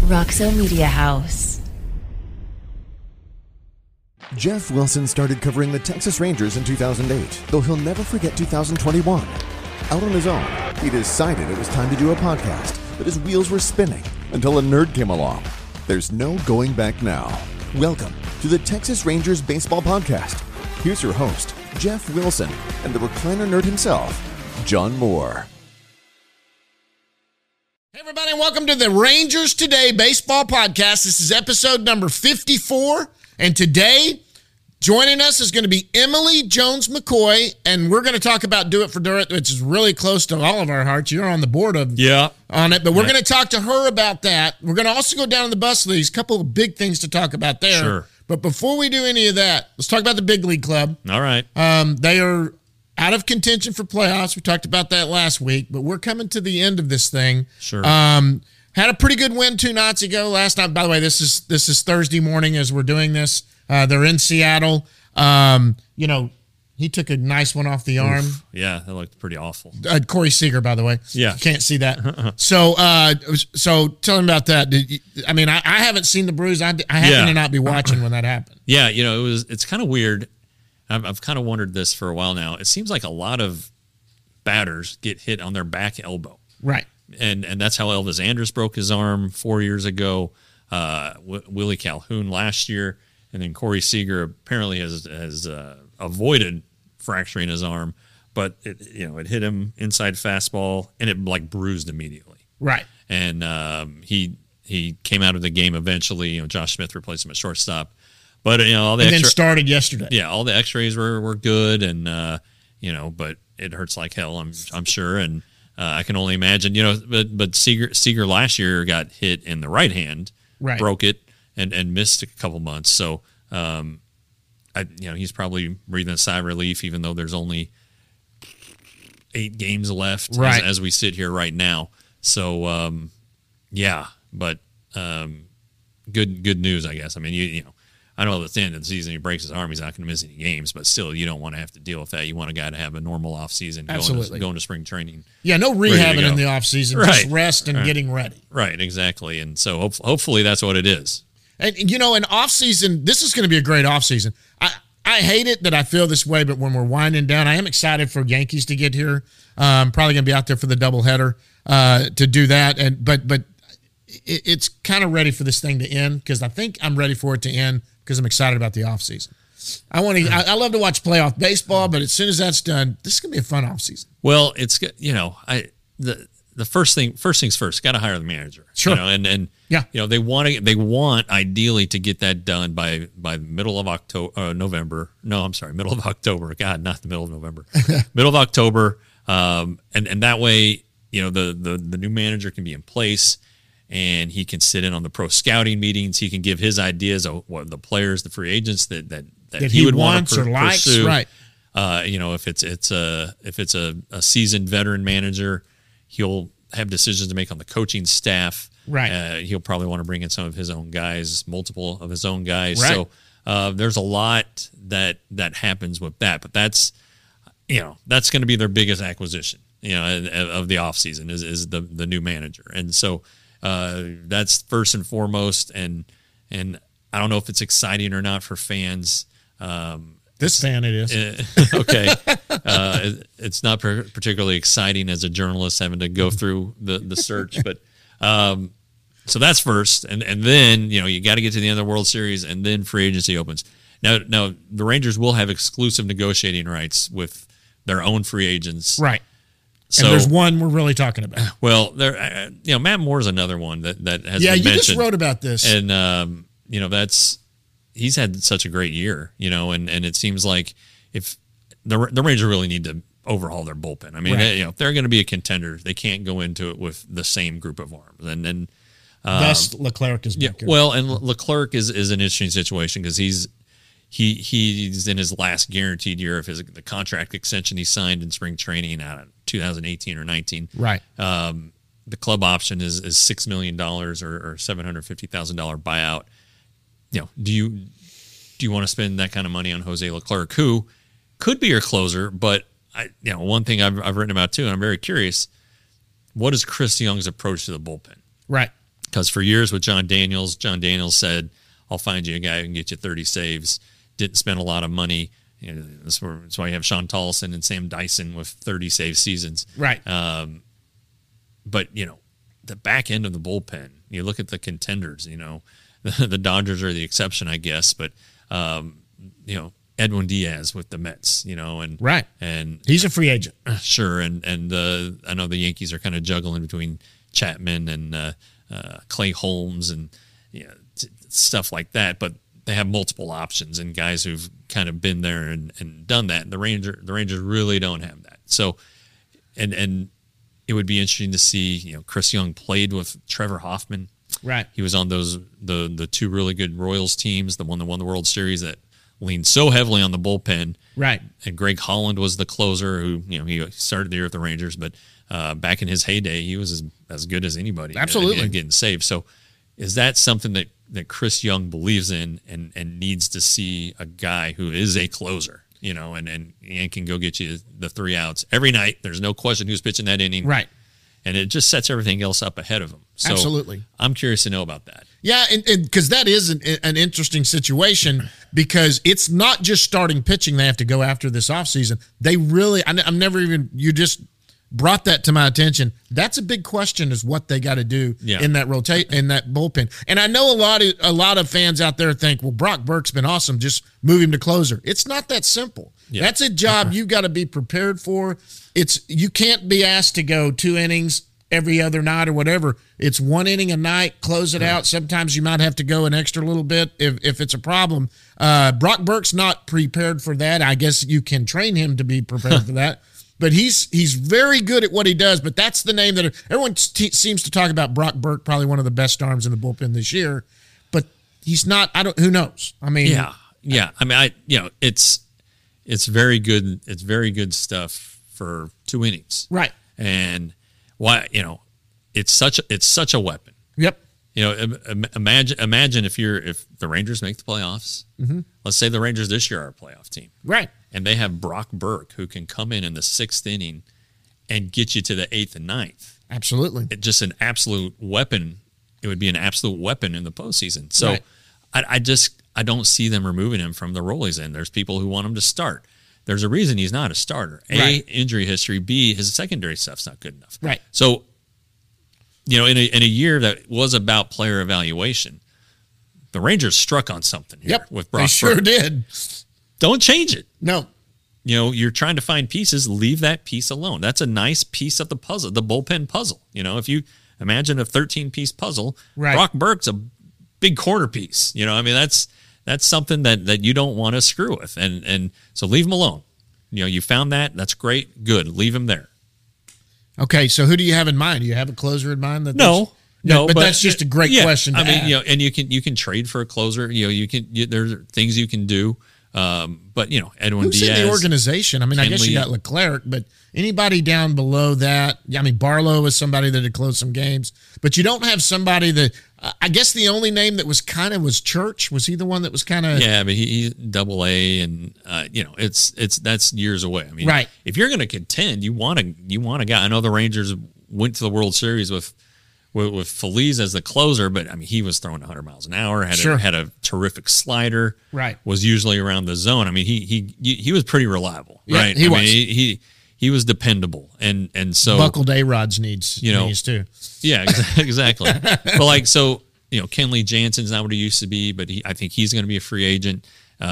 Roxo Media House. Jeff Wilson started covering the Texas Rangers in 2008, though he'll never forget 2021. Out on his own, he decided it was time to do a podcast, but his wheels were spinning until a nerd came along. There's no going back now. Welcome to the Texas Rangers Baseball Podcast. Here's your host, Jeff Wilson, and the recliner nerd himself, John Moore. Hey everybody, and welcome to the Rangers Today Baseball Podcast. This is episode number 54, and today, joining us is going to be Emily Jones McCoy, and we're going to talk about Do It for Dirt, which is really close to all of our hearts. You're on the board on it, but we're going to talk to her about that. We're going to also go down to the bus leagues, a couple of big things to talk about there. Sure. But before we do any of that, let's talk about the Big League Club. All right. They are out of contention for playoffs. We talked about that last week, but we're coming to the end of this thing. Sure. Had a pretty good win 2 nights ago. Last night, by the way, this is Thursday morning as we're doing this. They're in Seattle. He took a nice one off the arm. Oof. Yeah, that looked pretty awful. Corey Seager, by the way. Yeah. You can't see that. So tell him about that. I haven't seen the bruise. I happen to not be watching when that happened. Yeah, it's kind of weird. I've kind of wondered this for a while now. It seems like a lot of batters get hit on their back elbow. Right. And that's how Elvis Andrus broke his arm 4 years ago. Willie Calhoun last year. And then Corey Seager apparently has avoided fracturing his arm, but it hit him inside fastball and it bruised immediately. Right. And he came out of the game eventually. Josh Smith replaced him at shortstop, but then started yesterday. Yeah, all the X-rays were good, and but it hurts like hell. I'm sure, and I can only imagine. But Seager last year got hit in the right hand, right, broke it. And missed a couple months, so he's probably breathing a sigh of relief, even though there's only 8 games left as we sit here right now. So but good news, I guess. I mean, I know at the end of the season he breaks his arm, he's not going to miss any games, but still, you don't want to have to deal with that. You want a guy to have a normal off season, going to spring training. Yeah, no rehabbing in the off season, just rest and getting ready. Right, exactly, and so hopefully that's what it is. And, in off-season, this is going to be a great off-season. I hate it that I feel this way, but when we're winding down, I am excited for Yankees to get here. Probably going to be out there for the doubleheader to do that. But it's kind of ready for this thing to end because I think I'm ready for it to end because I'm excited about the off-season. I love to watch playoff baseball, but as soon as that's done, this is going to be a fun off-season. Well, it's, the first things first, got to hire the manager. Sure. They want ideally to get that done by middle of November. No, I'm sorry, middle of October. God, not the middle of November. Middle of October. And that way, the new manager can be in place and he can sit in on the pro scouting meetings. He can give his ideas of what the players, the free agents that he would want to pursue. Right. If it's a seasoned veteran manager, he'll have decisions to make on the coaching staff. Right. He'll probably want to bring in some of his own guys, multiple of his own guys. Right. So there's a lot that happens with that. But that's going to be their biggest acquisition, of the offseason is the new manager. And so that's first and foremost. And I don't know if it's exciting or not for fans. This fan it is. Okay. It's not particularly exciting as a journalist having to go through the search, but so that's first. And then, you got to get to the end of the World Series and then free agency opens. Now the Rangers will have exclusive negotiating rights with their own free agents. Right. So, and there's one we're really talking about. Well, there, Matt Moore is another one that has been mentioned. Yeah, you just wrote about this. And, he's had such a great year, and it seems like if the Rangers really need to overhaul their bullpen. I mean, if they're going to be a contender, they can't go into it with the same group of arms. And thus Leclerc is back. Well, and Leclerc is an interesting situation because he's in his last guaranteed year of the contract extension he signed in spring training out of 2018 or 19. Right. The club option is $6 million or $750,000 buyout. Do you want to spend that kind of money on Jose Leclerc, who could be your closer? But one thing I've written about too, and I'm very curious, what is Chris Young's approach to the bullpen? Right. Because for years with John Daniels said, I'll find you a guy who can get you 30 saves. Didn't spend a lot of money. That's why you have Sean Tollison and Sam Dyson with 30 save seasons. Right. But, the back end of the bullpen, you look at the contenders, the Dodgers are the exception, I guess. But, Edwin Diaz with the Mets, and right. And he's a free agent. Sure. And I know the Yankees are kind of juggling between Chapman and Clay Holmes and stuff like that, but they have multiple options and guys who've kind of been there and done that. And the Rangers really don't have that. So, and it would be interesting to see, Chris Young played with Trevor Hoffman. Right. He was on the two really good Royals teams, the one that won the World Series that leaned so heavily on the bullpen. Right. And Greg Holland was the closer who, he started the year with the Rangers, but back in his heyday, he was as good as anybody. Absolutely. Getting saved. So is that something that Chris Young believes in and needs to see a guy who is a closer, and can go get you the 3 outs every night. There's no question who's pitching that inning. Right. And it just sets everything else up ahead of him. So absolutely. I'm curious to know about that. Yeah, and because that is an interesting situation because it's not just starting pitching they have to go after this offseason. They really, I'm never even, you just brought that to my attention. That's a big question is what they got to do in that in that bullpen. And I know a lot of fans out there think, well, Brock Burke's been awesome. Just move him to closer. It's not that simple. Yeah. That's a job you've got to be prepared for. You can't be asked to go 2 innings every other night or whatever. It's 1 inning a night, close it out. Sometimes you might have to go an extra little bit if it's a problem. Brock Burke's not prepared for that. I guess you can train him to be prepared for that. But he's very good at what he does. But that's the name that everyone seems to talk about. Brock Burke, probably one of the best arms in the bullpen this year. But he's not. Who knows? I mean, yeah. I mean, it's very good. It's very good stuff for 2 innings, right? And why? It's such a weapon. Yep. Imagine if the Rangers make the playoffs. Mm-hmm. Let's say the Rangers this year are a playoff team, right? And they have Brock Burke who can come in the 6th inning and get you to the 8th and 9th. Absolutely, it's just an absolute weapon. It would be an absolute weapon in the postseason. So, right. I don't see them removing him from the role he's in. There's people who want him to start. There's a reason he's not a starter. A, right. Injury history. B, his secondary stuff's not good enough. Right. So, in a year that was about player evaluation, the Rangers struck on something here with Brock Burke. They sure did. Don't change it. No. You're trying to find pieces. Leave that piece alone. That's a nice piece of the puzzle, the bullpen puzzle. If you imagine a 13-piece puzzle, right. Brock Burke's a big corner piece. That's something that you don't want to screw with. And so leave him alone. You found that. That's great. Good. Leave him there. Okay, so who do you have in mind? Do you have a closer in mind? No, but that's just a great question. I mean, and you can trade for a closer. There's things you can do. But Edwin Who's Diaz in the organization? I mean, I guess you got Leclerc, but anybody down below that? I mean, Barlow is somebody that had closed some games, but you don't have somebody that. I guess the only name that was was Church. Was he the one that was kind of? Yeah, but he's Double-A, and that's years away. I mean, right. If you're going to contend, you want a guy. I know the Rangers went to the World Series with Feliz as the closer, but I mean, he was throwing 100 miles an hour. Had a terrific slider. Right. Was usually around the zone. I mean, he was pretty reliable. Yeah, right. He was. He was dependable, and so buckled A-Rod's needs too. Yeah, exactly. But Kenley Jansen's not what he used to be, but I think he's going to be a free agent.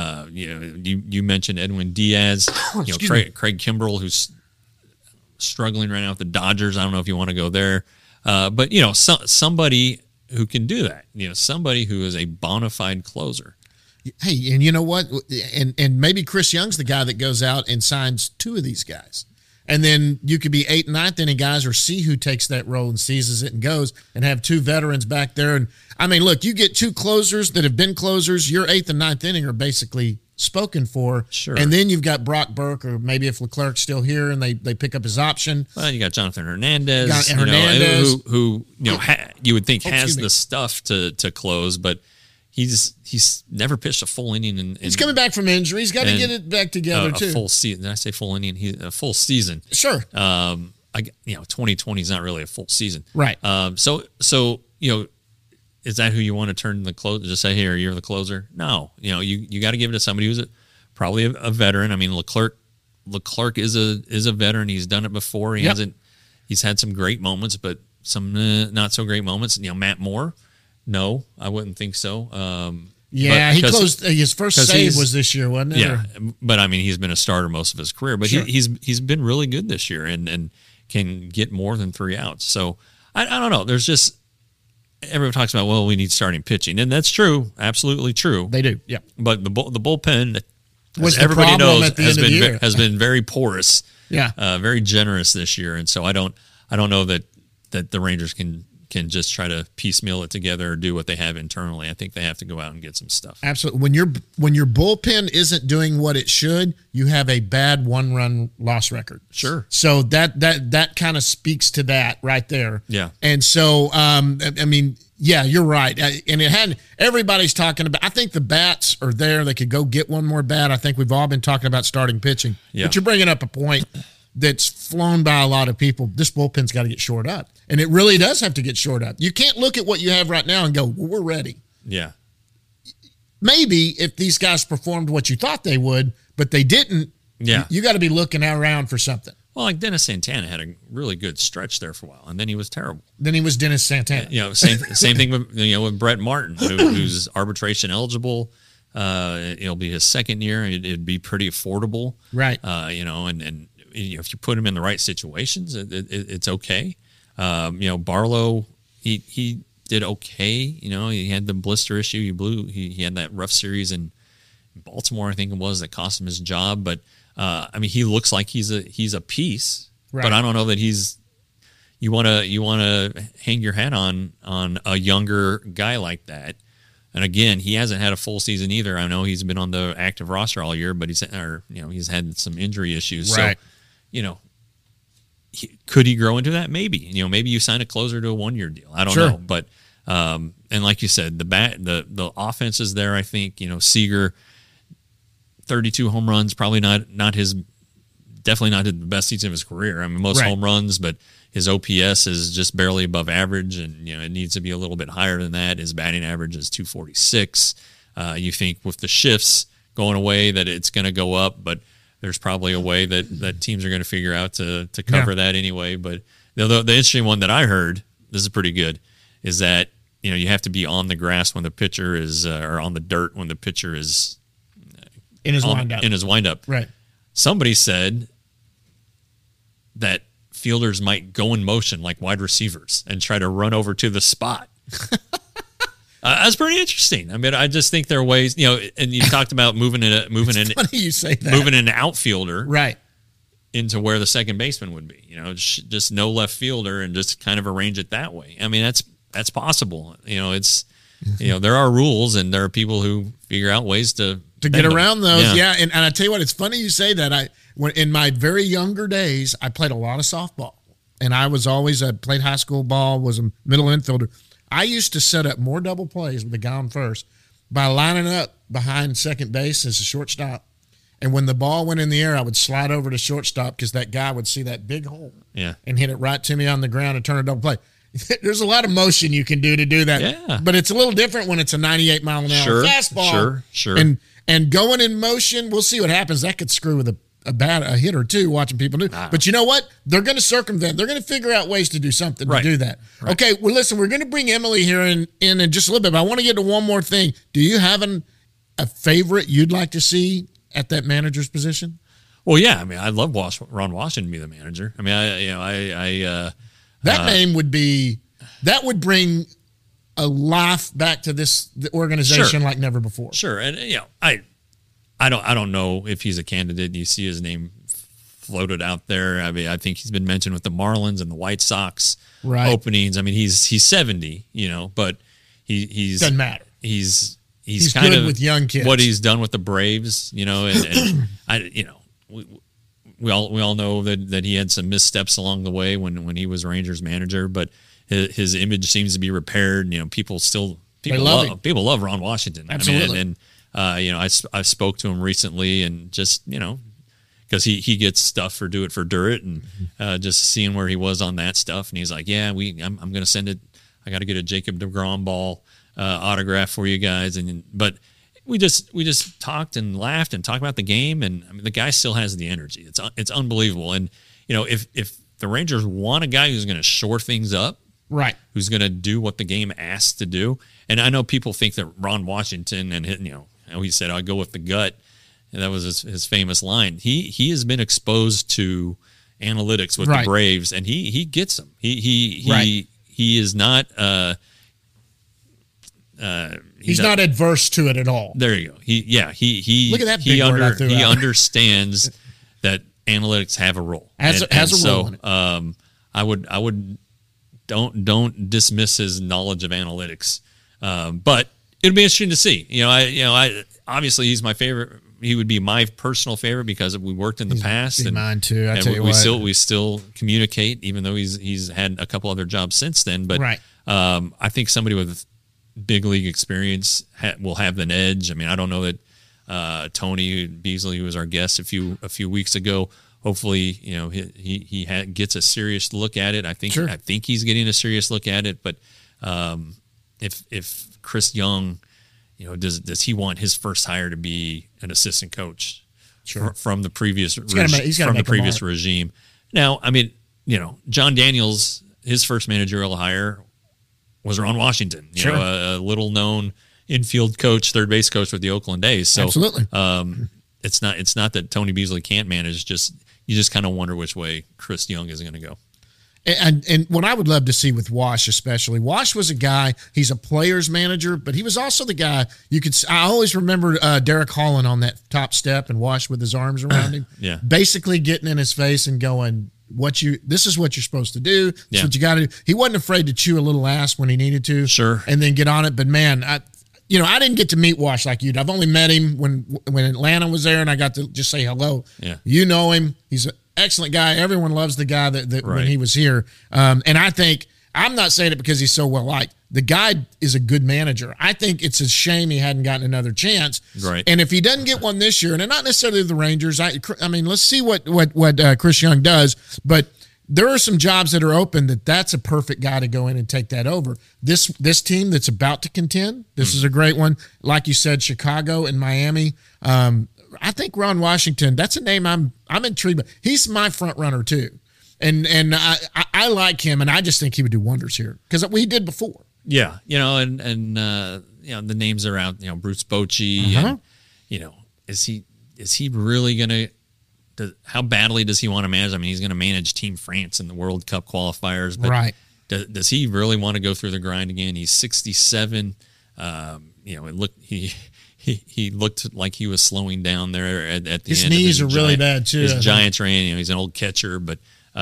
You mentioned Edwin Diaz. Craig Kimbrell, who's struggling right now with the Dodgers. I don't know if you want to go there, but somebody who can do that. Somebody who is a bona fide closer. Hey, and you know what? And maybe Chris Young's the guy that goes out and signs 2 of these guys. And then you could be 8th and 9th inning guys or see who takes that role and seizes it and goes and have 2 veterans back there. And I mean, look, you get 2 closers that have been closers. Your 8th and 9th inning are basically spoken for. Sure. And then you've got Brock Burke, or maybe if Leclerc's still here and they pick up his option. Well, you got Jonathan Hernandez. Who you would think has the stuff to close, but he's never pitched a full inning. He's coming back from injury. He's got to get it back together too. A full season. Did I say full inning? A full season. Sure. 2020 is not really a full season. Right. So is that who you want to turn the closer? Just say, here, you're the closer. No, you got to give it to somebody who's probably a veteran. I mean, Leclerc is a veteran. He's done it before. He's had some great moments, but some not so great moments. Matt Moore, no, I wouldn't think so. He closed his first save was this year, wasn't it? Yeah, but I mean, he's been a starter most of his career, but sure. he's been really good this year and can get more than 3 outs. So I don't know. There's just everyone talks about, well, we need starting pitching, and that's true, absolutely true. They do, yeah. But the bullpen, was as everybody knows, has been very porous, yeah, very generous this year, and so I don't know that the Rangers can just try to piecemeal it together or do what they have internally. I think they have to go out and get some stuff. Absolutely. When your bullpen isn't doing what it should, you have a bad 1-run loss record. Sure. So that kind of speaks to that right there. Yeah. And so, I mean, yeah, you're right. And everybody's talking about, I think the bats are there. They could go get one more bat. I think we've all been talking about starting pitching. Yeah. But you're bringing up a point that's flown by a lot of people. This bullpen's got to get shored up. And it really does have to get shored up. You can't look at what you have right now and go, well, we're ready. Yeah. Maybe if these guys performed what you thought they would, but they didn't, you got to be looking around for something. Well, like Dennis Santana had a really good stretch there for a while, and then he was terrible. Then he was Dennis Santana. Same thing with with Brett Martin, who's arbitration eligible. It'll be his second year. It'd be pretty affordable, right? And if you put him in the right situations, it's okay. Barlow, he did okay. He had the blister issue. He had that rough series in Baltimore, I think it was, that cost him his job. But I mean, he looks like he's a piece. Right. But I don't know that he's. You want to hang your hat on a younger guy like that. And again, he hasn't had a full season either. I know he's been on the active roster all year, but he's had some injury issues. Right. So, could he grow into that? Maybe. Maybe you sign a closer to a 1-year deal. I don't know. But and like you said, the offense is there. I think Seager, 32 home runs, probably definitely not the best season of his career. I mean, most home runs, but his OPS is just barely above average, and it needs to be a little bit higher than that. His batting average is 246. You think with the shifts going away that it's going to go up, but there's probably a way that teams are going to figure out to cover that anyway. But the interesting one that I heard, this is pretty good, is that you have to be on the grass when the pitcher is, or on the dirt when the pitcher is in his windup. In his windup, right? Somebody said that fielders might go in motion like wide receivers and try to run over to the spot. That's pretty interesting. I mean, I just think there are ways, and you talked about moving in. Funny you say that. Moving an outfielder, right, into where the second baseman would be. Just no left fielder and just kind of arrange it that way. I mean, that's possible. It's there are rules, and there are people who figure out ways to get around those. Yeah. And I tell you what, it's funny you say that. In my very younger days, I played a lot of softball, and I played high school ball, was a middle infielder. I used to set up more double plays with the guy on first by lining up behind second base as a shortstop. And when the ball went in the air, I would slide over to shortstop because that guy would see that big hole and hit it right to me on the ground and turn a double play. There's a lot of motion you can do to do that. Yeah. But it's a little different when it's a 98-mile-an-hour fastball. Sure. And going in motion, we'll see what happens. That could screw with a hit or two watching people do. But you know what? They're going to circumvent. They're going to figure out ways to do something to do that. Right. Okay, well, listen, we're going to bring Emily here in just a little bit, but I want to get to one more thing. Do you have a favorite you'd like to see at that manager's position? Well, yeah. I mean, I'd love Ron Washington to be the manager. I mean, that name would bring a life back to the organization like never before. Sure. And I don't know if he's a candidate. You see his name floated out there. I mean, I think he's been mentioned with the Marlins and the White Sox openings. I mean, he's 70, but he's doesn't matter. He's kind good of with young kids. What he's done with the Braves, and we all know that he had some missteps along the way when he was Rangers manager, but his image seems to be repaired. People love Ron Washington. Absolutely. I mean, I spoke to him recently, and just because he gets stuff for Do It for Dirt, and just seeing where he was on that stuff, and he's like, yeah, I'm going to send it I got to get a Jacob deGrom ball autograph for you guys. But we just talked and laughed and talked about the game, and I mean, the guy still has the energy. It's unbelievable. And if the Rangers want a guy who's going to shore things up, right, who's going to do what the game asks to do, and I know people think that Ron Washington and he said I'll go with the gut, and that was his famous line. He has been exposed to analytics with the Braves, and he gets them. He is not. He's not adverse to it at all. There you go. He look at that big word I threw he out. Understands that analytics have a role. Has a role in it. I would don't dismiss his knowledge of analytics. But it'd be interesting to see. I obviously he's my favorite. He would be my personal favorite because we worked in the past. And mine too. We still communicate, even though he's had a couple other jobs since then. But I think somebody with big league experience will have an edge. I mean, I don't know that Tony Beasley, who was our guest a few weeks ago, hopefully he gets a serious look at it. I think he's getting a serious look at it. But if Chris Young, does he want his first hire to be an assistant coach from the previous regime? Now, I mean, John Daniels, his first managerial hire was Ron Washington, a little-known infield coach, third base coach with the Oakland A's. So, absolutely, it's not that Tony Beasley can't manage. You just kind of wonder which way Chris Young is going to go. And what I would love to see with Wash, especially, Wash was a guy. He's a player's manager, but he was also the guy I always remember Derek Holland on that top step and Wash with his arms around him, basically getting in his face and going, this is what you're supposed to do. This is what you got to do. He wasn't afraid to chew a little ass when he needed to. Sure. And then get on it. But man, I didn't get to meet Wash like you did. I've only met him when Atlanta was there, and I got to just say hello. Yeah. You know him. He's an excellent guy. Everyone loves the guy that when he was here. And I think, I'm not saying it because he's so well liked. The guy is a good manager. I think it's a shame he hadn't gotten another chance. Right. And if he doesn't get one this year, and not necessarily the Rangers, I mean, let's see what Chris Young does. But there are some jobs that are open that's a perfect guy to go in and take that over. This team that's about to contend, this is a great one. Like you said, Chicago and Miami. I think Ron Washington, that's a name I'm intrigued by. He's my front runner too. And I like him, and I just think he would do wonders here because we did before. Yeah, and the names are out. Bruce Bochy, and is he really gonna? How badly does he want to manage? I mean, he's going to manage Team France in the World Cup qualifiers, but right? Does he really want to go through the grind again? He's 67. He looked like he was slowing down there at the end. His knees are really bad too. His Giants ran. He's an old catcher, but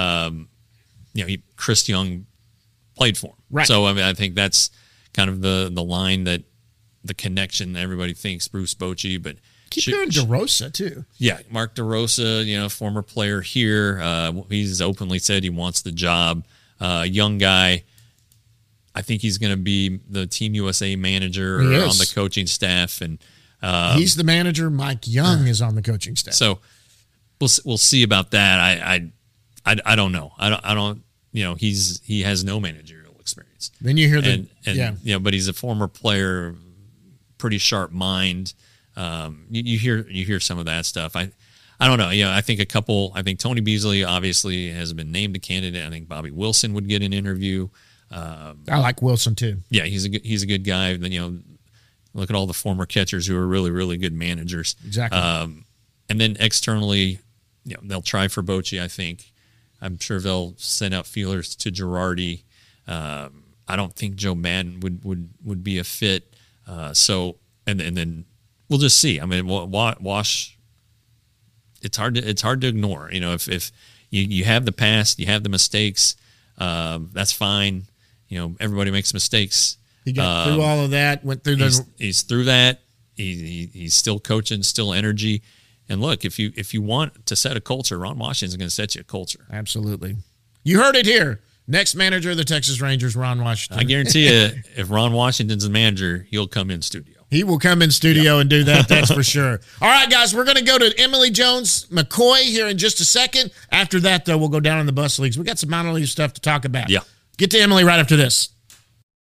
Chris Young played for him. Right. So I mean, I think that's kind of the line that the connection that everybody thinks Bruce Bochy, but keep doing DeRosa too. Yeah, Mark DeRosa, former player here. He's openly said he wants the job. Young guy. I think he's going to be the Team USA manager or on the coaching staff, and he's the manager. Mike Young is on the coaching staff. So we'll see about that. I don't know. I don't. He has no managerial experience. Then you hear but he's a former player, pretty sharp mind. You hear some of that stuff. I don't know. I think I think Tony Beasley obviously has been named a candidate. I think Bobby Wilson would get an interview. I like Wilson too. Yeah, he's a good guy. Then look at all the former catchers who are really, really good managers. Exactly. And then externally, they'll try for Bochy. I think. I'm sure they'll send out feelers to Girardi. I don't think Joe Madden would be a fit. So and then we'll just see. I mean, Wash. It's hard to ignore. If you have the past, you have the mistakes. That's fine. Everybody makes mistakes. He got through all of that. Went through he's through that. He's still coaching, still energy. And look, if you want to set a culture, Ron Washington's going to set you a culture. Absolutely. You heard it here. Next manager of the Texas Rangers, Ron Washington. I guarantee you, if Ron Washington's the manager, he'll come in studio. He will come in studio and do that. That's for sure. All right, guys, we're going to go to Emily Jones McCoy here in just a second. After that, though, we'll go down in the bus leagues. We got some minor league stuff to talk about. Yeah. Get to Emily right after this.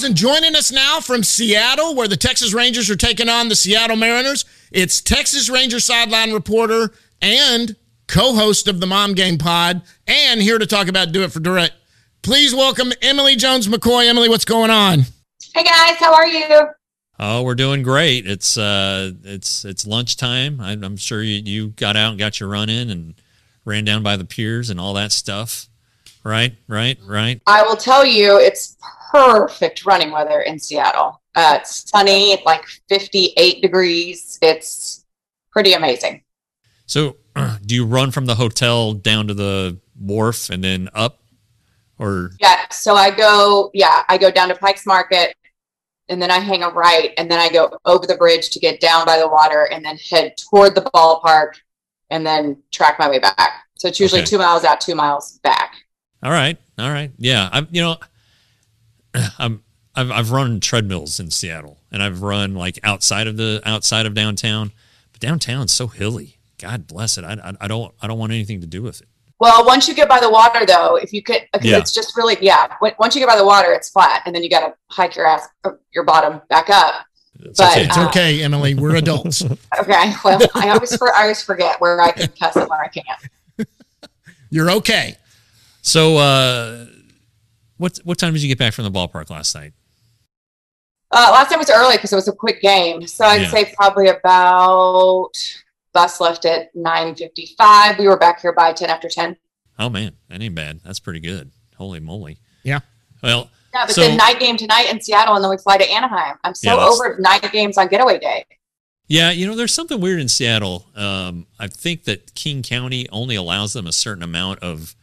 guys, and joining us now from Seattle, where the Texas Rangers are taking on the Seattle Mariners, it's Texas Ranger sideline reporter and co-host of the Mom Game Pod, and here to talk about Do It for Durrett. Please welcome Emily Jones McCoy. Emily, what's going on? Hey guys, how are you? Oh, we're doing great. It's lunchtime. I'm sure you got out and got your run in and ran down by the piers and all that stuff. Right. I will tell you, it's perfect running weather in Seattle. It's sunny, like 58 degrees. It's pretty amazing. So do you run from the hotel down to the wharf and then up? Or Yeah, so I go down to Pikes Market, and then I hang a right, and then I go over the bridge to get down by the water, and then head toward the ballpark, and then track my way back. So it's usually 2 miles out, 2 miles back. All right. Yeah, I've run treadmills in Seattle, and I've run like outside of downtown, but downtown's so hilly. God bless it. I don't want anything to do with it. Well, once you get by the water, though, if you could, because it's just really, once you get by the water, it's flat, and then you got to hike your bottom back up. It's okay, Emily. We're adults. Okay. Well, I always forget where I can cuss and where I can't. You're okay. So, what time did you get back from the ballpark last night? Last time was early because it was a quick game. So I'd say probably about, bus left at 9:55. We were back here by 10 after 10. Oh, man. That ain't bad. That's pretty good. Holy moly. Yeah. Well, yeah, but the night game tonight in Seattle, and then we fly to Anaheim. I'm so over night games on getaway day. Yeah, there's something weird in Seattle. I think that King County only allows them a certain amount of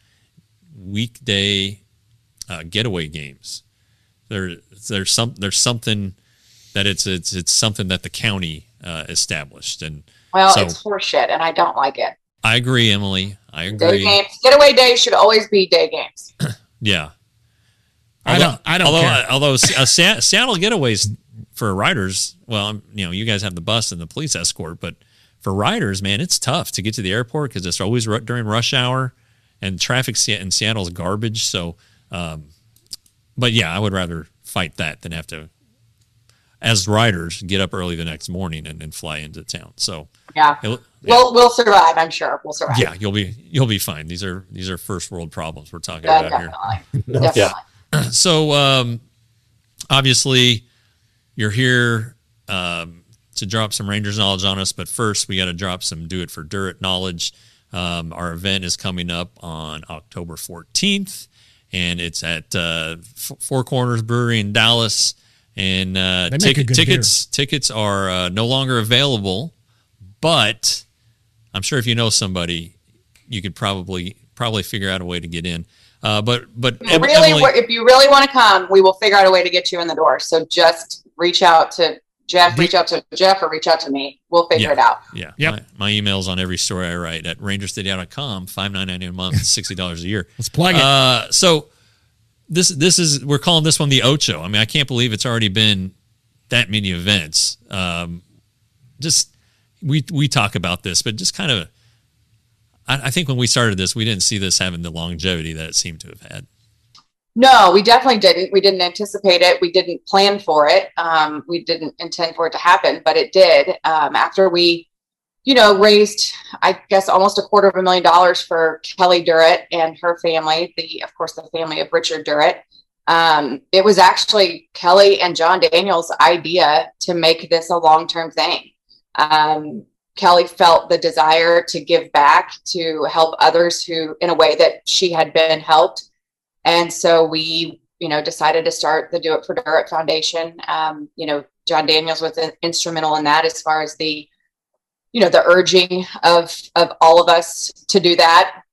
weekday getaway games. There's something that it's something that the county established, and it's horseshit, and I don't like it. I agree, Emily. I agree. Day games, getaway days should always be day games. Yeah. I don't care. Although Seattle getaways for riders, well, you guys have the bus and the police escort, but for riders, man, it's tough to get to the airport because it's always during rush hour, and traffic in Seattle is garbage. So, but yeah, I would rather fight that than have to, as riders, get up early the next morning and then fly into town. So we'll survive. I'm sure we'll survive. Yeah, you'll be fine. These are first world problems we're talking about here. Definitely. So, obviously, you're here to drop some Rangers knowledge on us, but first we got to drop some Do It for Durrett knowledge. Our event is coming up on October 14th, and it's at Four Corners Brewery in Dallas. And tickets are no longer available, but I'm sure if you know somebody, you could probably figure out a way to get in. But Emily, Emily, if you really want to come, we will figure out a way to get you in the door. So just reach out to Jeff, or reach out to me. We'll figure it out. Yeah. Yep. My email's on every story I write at rangersteadyout.com, $5.99 a month, $60 a year. Let's plug it. So we're calling this one the Ocho. I mean, I can't believe it's already been that many events. We talk about this, but just kind of, I think when we started this, we didn't see this having the longevity that it seemed to have had. No, we definitely didn't. We didn't anticipate it. We didn't plan for it. We didn't intend for it to happen, but it did. After we, raised, I guess, almost $250,000 for Kelly Durrett and her family, the family of Richard Durrett. It was actually Kelly and John Daniels' idea to make this a long-term thing. Kelly felt the desire to give back, to help others who, in a way that she had been helped. And so we, decided to start the Do It for Durrett Foundation. John Daniels was instrumental in that, as far as the urging of all of us to do that.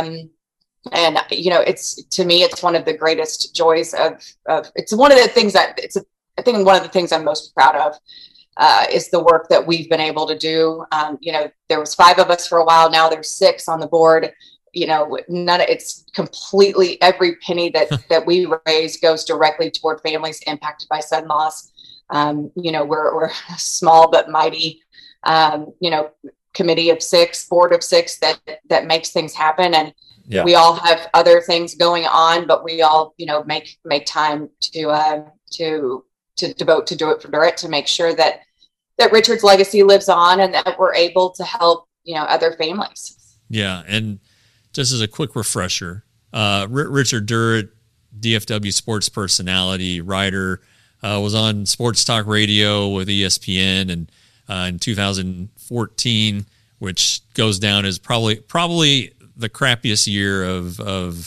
To me, it's one of the greatest joys of it's one of the things that I think one of the things I'm most proud of is the work that we've been able to do. There was 5 of us for a while. Now there's 6 on the board. It's completely, every penny that we raise goes directly toward families impacted by sudden loss. We're a small but mighty, committee of 6, board of 6 that makes things happen. And we all have other things going on, but we all, make time to to devote to Do It for Dirt, to make sure that Richard's legacy lives on and that we're able to help, other families. Yeah. And just as a quick refresher, Richard Durrett, DFW sports personality, writer, was on Sports Talk Radio with ESPN, and in 2014, which goes down as probably the crappiest year of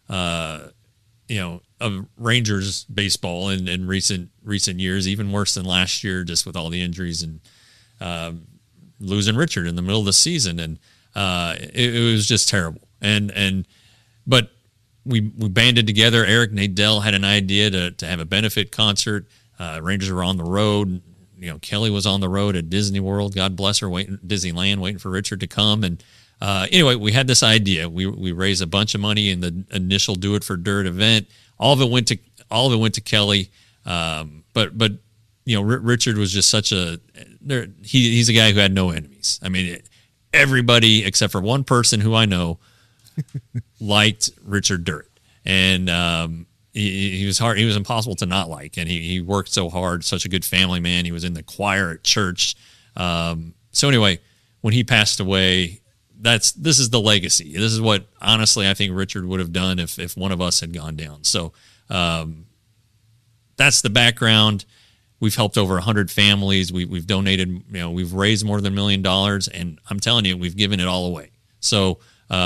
Rangers baseball in recent years, even worse than last year, just with all the injuries and losing Richard in the middle of the season, and it was just terrible. But we banded together. Eric Nadel had an idea to have a benefit concert. Rangers were on the road. Kelly was on the road at Disney World, God bless her, Disneyland, waiting for Richard to come. And anyway, we had this idea. We raised a bunch of money in the initial Do It for Dirt event. All of it went to Kelly. But Richard was just such he's a guy who had no enemies. I mean, everybody except for one person who I know liked Richard Durrett, and he was hard. He was impossible to not like, and he worked so hard. Such a good family man. He was in the choir at church. So anyway, when he passed away, this is the legacy. This is what honestly I think Richard would have done if one of us had gone down. So that's the background. We've helped over 100 families. We've donated. We've raised more than $1 million, and I'm telling you, we've given it all away. So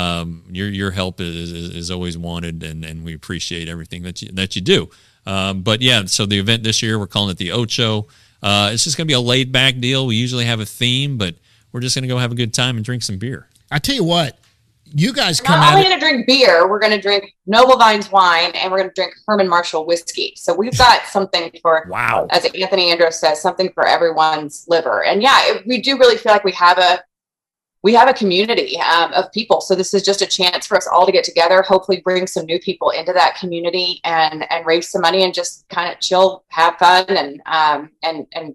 your help is always wanted, and we appreciate everything that you do. But yeah, so the event this year, we're calling it the Ocho. It's just going to be a laid back deal. We usually have a theme, but we're just going to go have a good time and drink some beer. I tell you what, you guys come Not only going to drink beer, we're going to drink Noble Vines wine, and we're going to drink Herman Marshall whiskey. So we've got something for, wow, as Anthony Andros says, something for everyone's liver. And yeah, we do really feel like we have a community of people. So this is just a chance for us all to get together, hopefully bring some new people into that community and raise some money and just kind of chill, have fun, and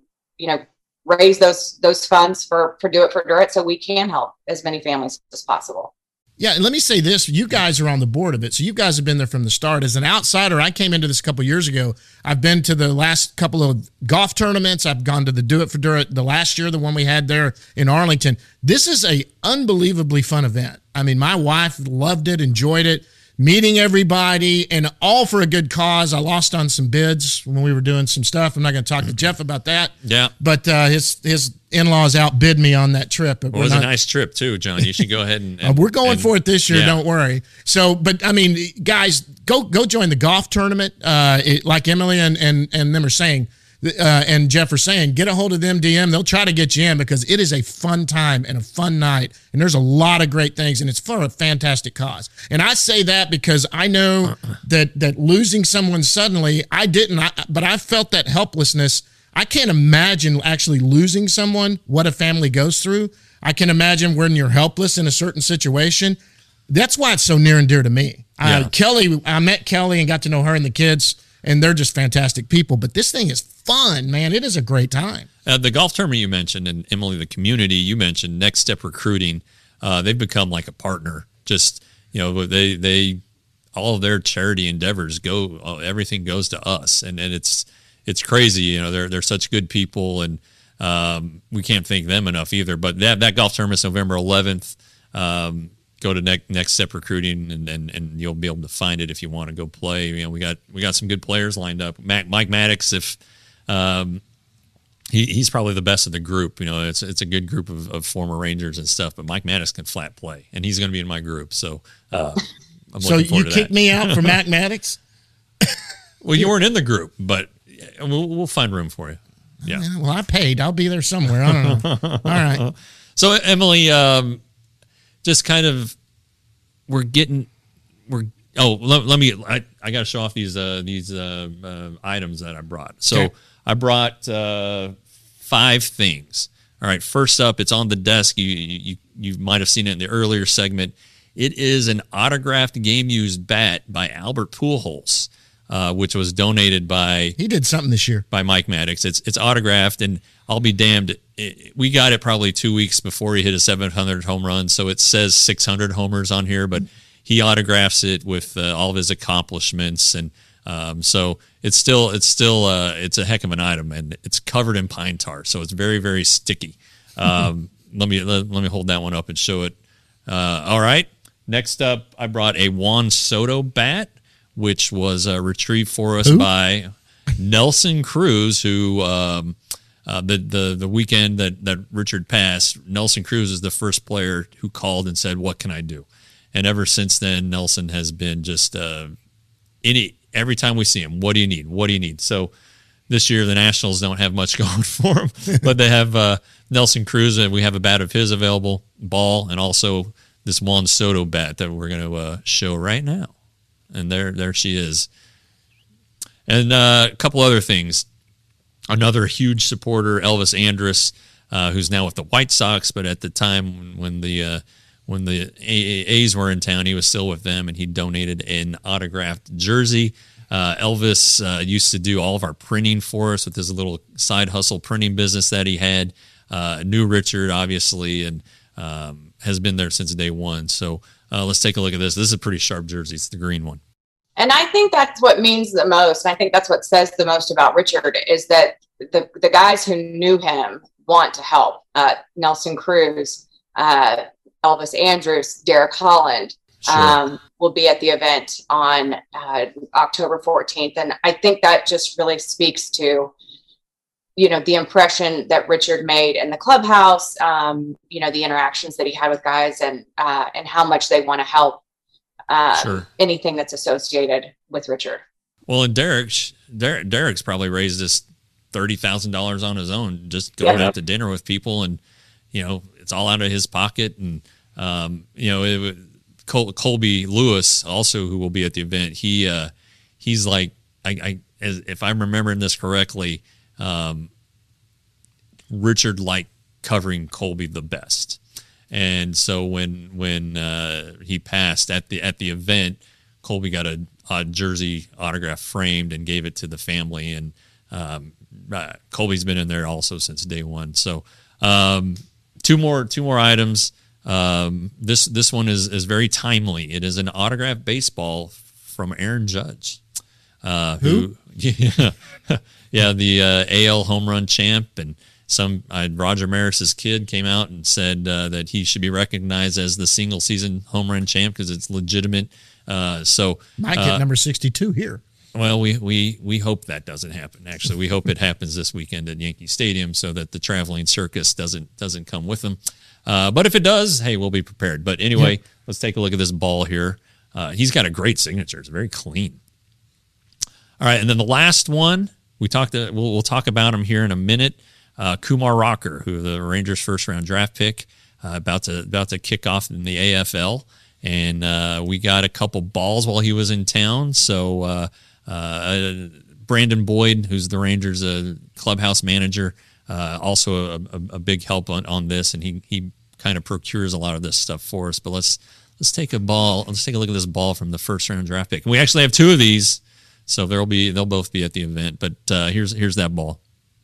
raise those funds for Do It for Dirt so we can help as many families as possible. Yeah, and let me say this. You guys are on the board of it, so you guys have been there from the start. As an outsider, I came into this a couple years ago. I've been to the last couple of golf tournaments. I've gone to the Do It for Dirt the last year, the one we had there in Arlington. This is a unbelievably fun event. I mean, my wife loved it, enjoyed it, meeting everybody, and all for a good cause. I lost on some bids when we were doing some stuff. I'm not going to talk to Jeff about that. Yeah. But his in-laws outbid me on that trip. It was a nice trip too, John. You should go ahead and we're going for it this year. Yeah. Don't worry. So, but I mean, guys, go join the golf tournament. Like Emily and them are saying, and Jeff are saying, get a hold of them, DM. They'll try to get you in because it is a fun time and a fun night. And there's a lot of great things, and it's for a fantastic cause. And I say that because I know that losing someone suddenly, but I felt that helplessness. I can't imagine actually losing someone, what a family goes through. I can imagine when you're helpless in a certain situation. That's why it's so near and dear to me. Yeah. I met Kelly and got to know her and the kids, and they're just fantastic people. But this thing is fun, man. It is a great time. The golf tournament you mentioned, and Emily, the community you mentioned, Next Step Recruiting, they've become like a partner. Just, they all of their charity endeavors everything goes to us. And it's crazy. They're such good people, and we can't thank them enough either. But that golf tournament is November 11th. Go to Next Step Recruiting, and you'll be able to find it if you want to go play. We got some good players lined up. Mike Maddox, if he's probably the best of the group. It's a good group of former Rangers and stuff. But Mike Maddox can flat play, and he's going to be in my group. So I'm looking forward to kicked me out for Mac Maddox? Well, you weren't in the group, but we'll find room for you. Yeah. Well, I paid. I'll be there somewhere. I don't know. All right. So Emily, just kind of, let me. I got to show off these items that I brought. So okay. I brought 5 things. All right. First up, it's on the desk. You might have seen it in the earlier segment. It is an autographed game used bat by Albert Pujols, which was donated by. He did something this year by Mike Maddox. It's autographed, and I'll be damned. We got it probably 2 weeks before he hit a 700 home run, so it says 600 homers on here, but he autographs it with all of his accomplishments, and So it's still it's a heck of an item, and it's covered in pine tar, so it's very, very sticky. Let me hold that one up and show it. All right. Next up, I brought a Juan Soto bat, which was retrieved for us by Nelson Cruz, who the weekend that Richard passed, Nelson Cruz is the first player who called and said, "What can I do?" And ever since then, Nelson has been just every time we see him, what do you need? What do you need? So this year, the Nationals don't have much going for them, but they have Nelson Cruz, and we have a bat of his available, ball, and also this Juan Soto bat that we're going to show right now. And there she is. And a couple other things. Another huge supporter, Elvis Andrus, who's now with the White Sox, but at the time when the A's were in town, he was still with them, and he donated an autographed jersey. Elvis used to do all of our printing for us with his little side hustle printing business that he had. Knew Richard, obviously, and has been there since day one. So let's take a look at this. This is a pretty sharp jersey. It's the green one. And I think that's what means the most. And I think that's what says the most about Richard is that the guys who knew him want to help. Nelson Cruz, Elvis Andrus, Derek Holland will be at the event on October 14th. And I think that just really speaks to, the impression that Richard made in the clubhouse, the interactions that he had with guys and how much they want to help anything that's associated with Richard. Well, and Derek's probably raised this $30,000 on his own, just going out to dinner with people, and it's all out of his pocket. And Colby Lewis, also, who will be at the event, he's like, if I'm remembering this correctly, Richard liked covering Colby the best. And so when he passed at the event, Colby got a jersey autograph framed and gave it to the family. And Colby's been in there also since day one. So two more items. This one is very timely. It is an autographed baseball from Aaron Judge, who the AL home run champ, and Roger Maris's kid came out and said that he should be recognized as the single season home run champ because it's legitimate. So might get number 62 here. Well, we hope that doesn't happen. Actually, we hope it happens this weekend at Yankee Stadium so that the traveling circus doesn't come with them. But if it does, hey, we'll be prepared. But anyway, Let's take a look at this ball here. He's got a great signature. It's very clean. All right, and then the last one we'll talk about him here in a minute. Kumar Rocker, who the Rangers' first round draft pick, about to kick off in the AFL, and we got a couple balls while he was in town. So Brandon Boyd, who's the Rangers' clubhouse manager, also a big help on this, and he kind of procures a lot of this stuff for us. But let's take a look at this ball from the first round draft pick, and we actually have two of these, so they'll both be at the event. But here's that ball.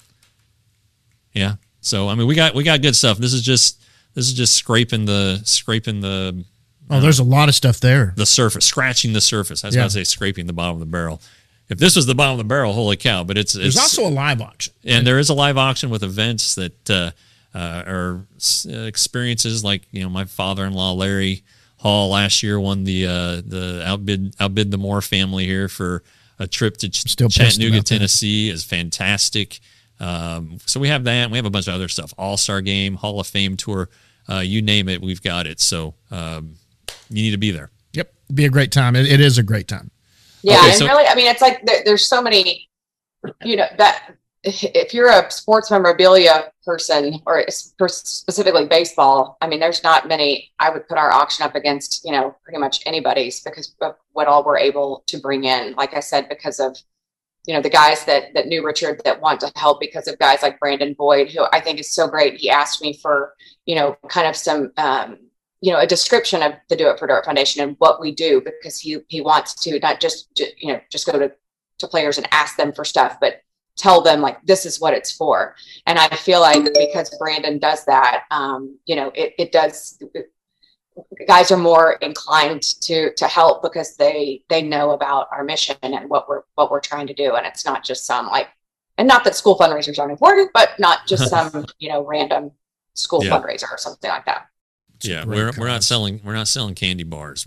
Yeah. So I mean, we got good stuff. This is just scraping the. There's a lot of stuff there. The surface, scratching the surface. I was about to say scraping the bottom of the barrel. If this was the bottom of the barrel, holy cow! But there's also a live auction, and there is a live auction with events that are experiences like my father-in-law Larry Hall last year won the outbid the Moore family here for a trip to Chattanooga, Tennessee. Is fantastic. So we have that, and we have a bunch of other stuff. All-Star Game, Hall of Fame tour, you name it, we've got it. So you need to be there. Yep, it'd be a great time. It is a great time. Yeah, okay, and really, I mean, it's like there's so many, that if you're a sports memorabilia person or specifically baseball, I mean, there's not many I would put our auction up against, pretty much anybody's because of what all we're able to bring in. Like I said, because of the guys that knew Richard that want to help, because of guys like Brandon Boyd, who I think is so great. He asked me for, kind of some, a description of the Do It for Dirt Foundation and what we do, because he wants to not just go to players and ask them for stuff, but tell them like, this is what it's for. And I feel like because Brandon does that, it does, guys are more inclined to help because they know about our mission and what we're trying to do. And it's not just some like, and not that school fundraisers aren't important, but not just some, random school fundraiser or something like that. Yeah. We're not selling candy bars.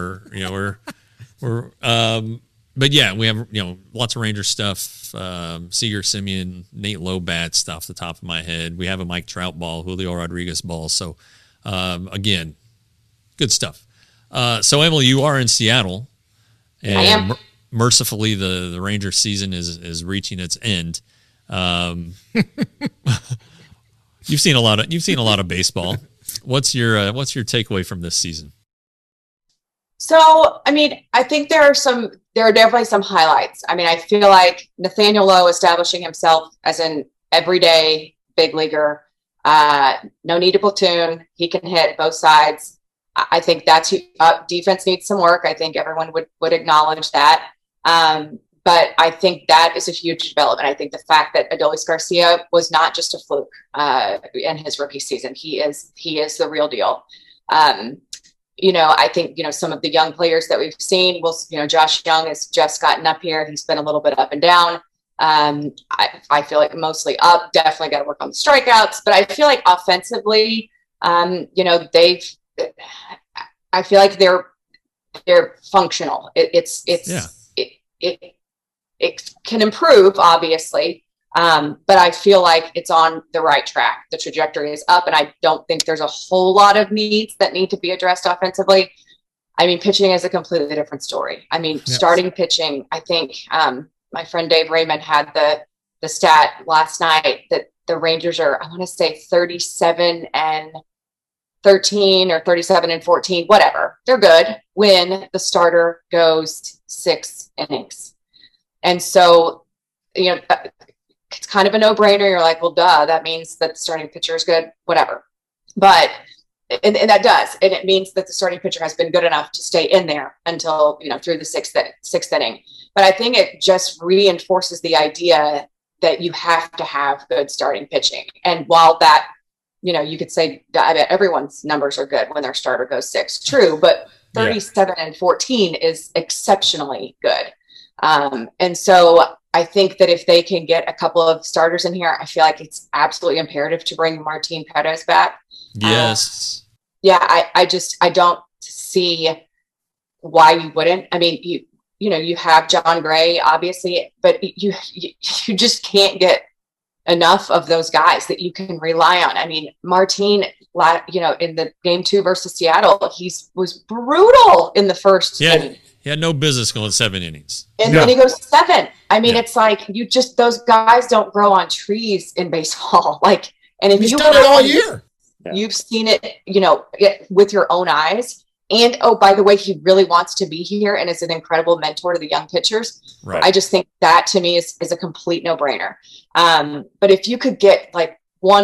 But yeah, we have, lots of Ranger stuff. Seager Simeon, Nate Lowe bats off the top of my head. We have a Mike Trout ball, Julio Rodriguez ball. So, again, good stuff. So Emily, you are in Seattle, and I am. Mercifully, the Ranger season is reaching its end. You've seen a lot of baseball. What's your takeaway from this season? So, I mean, I think there are definitely some highlights. I mean, I feel like Nathaniel Lowe establishing himself as an everyday big leaguer. No need to platoon. He can hit both sides. I think that's defense needs some work. I think everyone would acknowledge that. But I think that is a huge development. I think the fact that Adolis Garcia was not just a fluke in his rookie season. He is the real deal. I think, some of the young players that we've seen, Josh Young has just gotten up here. He's been a little bit up and down. I feel like mostly up, definitely got to work on the strikeouts, but I feel like offensively, I feel like they're functional. It can improve, obviously. But I feel like it's on the right track. The trajectory is up, and I don't think there's a whole lot of needs that need to be addressed offensively. I mean, pitching is a completely different story. I mean, starting pitching, I think my friend Dave Raymond had the stat last night that the Rangers are, I want to say 37-13 or 37-14, whatever. They're good when the starter goes 6 innings. And so, it's kind of a no-brainer. You're like, well, duh, that means that the starting pitcher is good, whatever. But, and that does. And it means that the starting pitcher has been good enough to stay in there until, through the sixth inning. But I think it just reinforces the idea that you have to have good starting pitching. And while that, you could say, I bet everyone's numbers are good when their starter goes 6. True, but 37-14 is exceptionally good. And so I think that if they can get a couple of starters in here, I feel like it's absolutely imperative to bring Martin Perez back. Yes. I don't see why you wouldn't. I mean, you have John Gray, obviously, but you just can't get enough of those guys that you can rely on. I mean, Martin, in the game 2 versus Seattle, was brutal in the first inning. He had no business going 7 innings. And then he goes 7. I mean, it's like those guys don't grow on trees in baseball. Like, and if he's you done it all year, you've seen it, with your own eyes. And by the way, he really wants to be here and is an incredible mentor to the young pitchers. Right. I just think that to me is a complete no-brainer. But if you could get like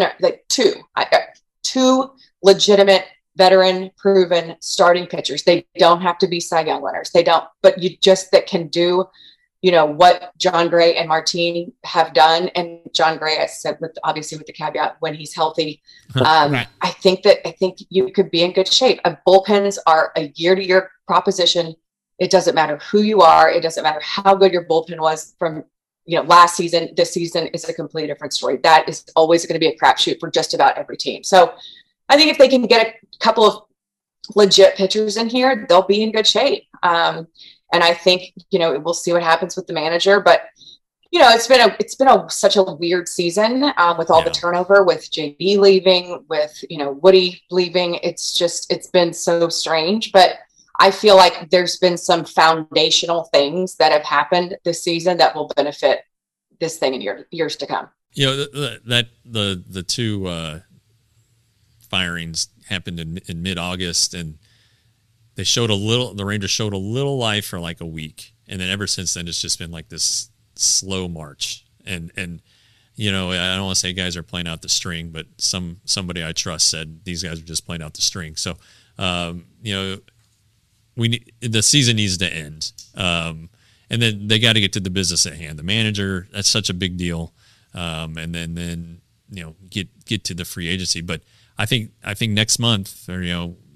two legitimate veteran proven starting pitchers, they don't have to be Cy Young winners. They don't, but that can do, what John Gray and Martin have done. And John Gray, I said, obviously with the caveat when he's healthy, right. I think you could be in good shape. Bullpens are a year-to-year proposition. It doesn't matter who you are. It doesn't matter how good your bullpen was from, last season. This season is a completely different story. That is always going to be a crapshoot for just about every team. So I think if they can get a couple of legit pitchers in here, they'll be in good shape. And I think, we'll see what happens with the manager, but it's been such a weird season with all the turnover, with JB leaving, with, Woody leaving. It's been so strange, but I feel like there's been some foundational things that have happened this season that will benefit this thing in years to come. The two firings happened in mid-August, and the Rangers showed a little life for like a week, and then ever since then it's just been like this slow march. And I don't want to say guys are playing out the string, but somebody I trust said these guys are just playing out the string. So the season needs to end, and then they got to get to the business at hand. The manager, that's such a big deal, and then get to the free agency. But I think next month, or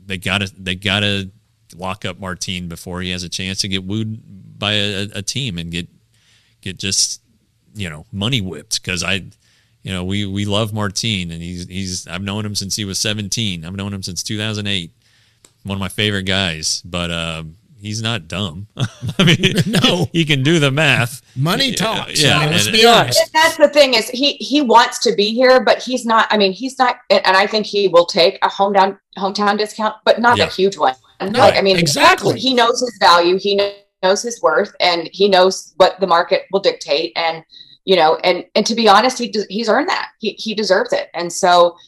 they gotta lock up Martin before he has a chance to get wooed by a team and get just money whipped. Because we love Martin, and he's I've known him since he was 17. I've known him since 2008. One of my favorite guys, but he's not dumb. I mean, no, he can do the math. Money talks. Yeah, let's be honest. And that's the thing is he wants to be here, but he's not. I mean, he's not, and I think he will take a hometown discount, but not a huge one. No, like, I mean, exactly. He knows his value. He knows his worth, and he knows what the market will dictate. And and to be honest, he's earned that. He deserves it. And so.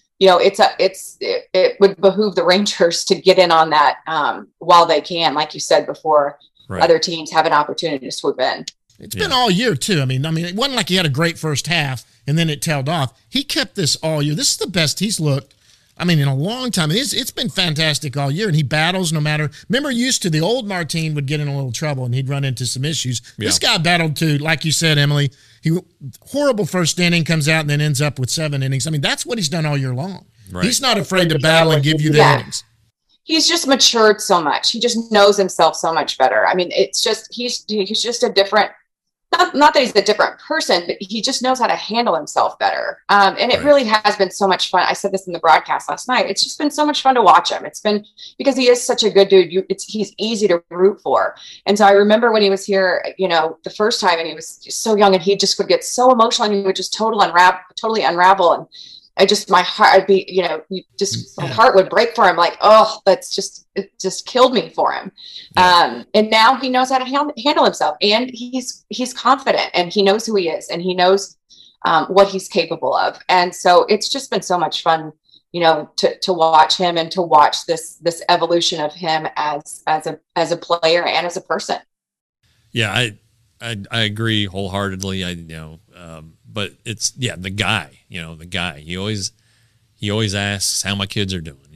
It would behoove the Rangers to get in on that while they can, like you said before, other teams have an opportunity to swoop in. It's been all year too. I mean, it wasn't like he had a great first half and then it tailed off. He kept this all year. This is the best he's looked, in a long time. It's been fantastic all year, and he battles no matter. Remember, used to the old Martin would get in a little trouble and he'd run into some issues. Yeah. This guy battled too, like you said, Emily. Horrible first inning, comes out and then ends up with 7 innings. That's what he's done all year long. Right. He's not afraid to battle and give you the innings. He's just matured so much. He just knows himself so much better. It's just he's just a different. Not that he's a different person, but he just knows how to handle himself better. And it really has been so much fun. I said this in the broadcast last night. It's just been so much fun to watch him. It's been because he is such a good dude. He's easy to root for. And so I remember when he was here, the first time, and he was just so young, and he just would get so emotional, and he would just totally unravel. And my heart, my heart would break for him. Like, oh, it just killed me for him. Yeah. And now he knows how to handle himself, and he's confident, and he knows who he is, and he knows what he's capable of. And so it's just been so much fun, to watch him and to watch this evolution of him as a player and as a person. Yeah, I agree wholeheartedly. But it's the guy. The guy. He always asks how my kids are doing.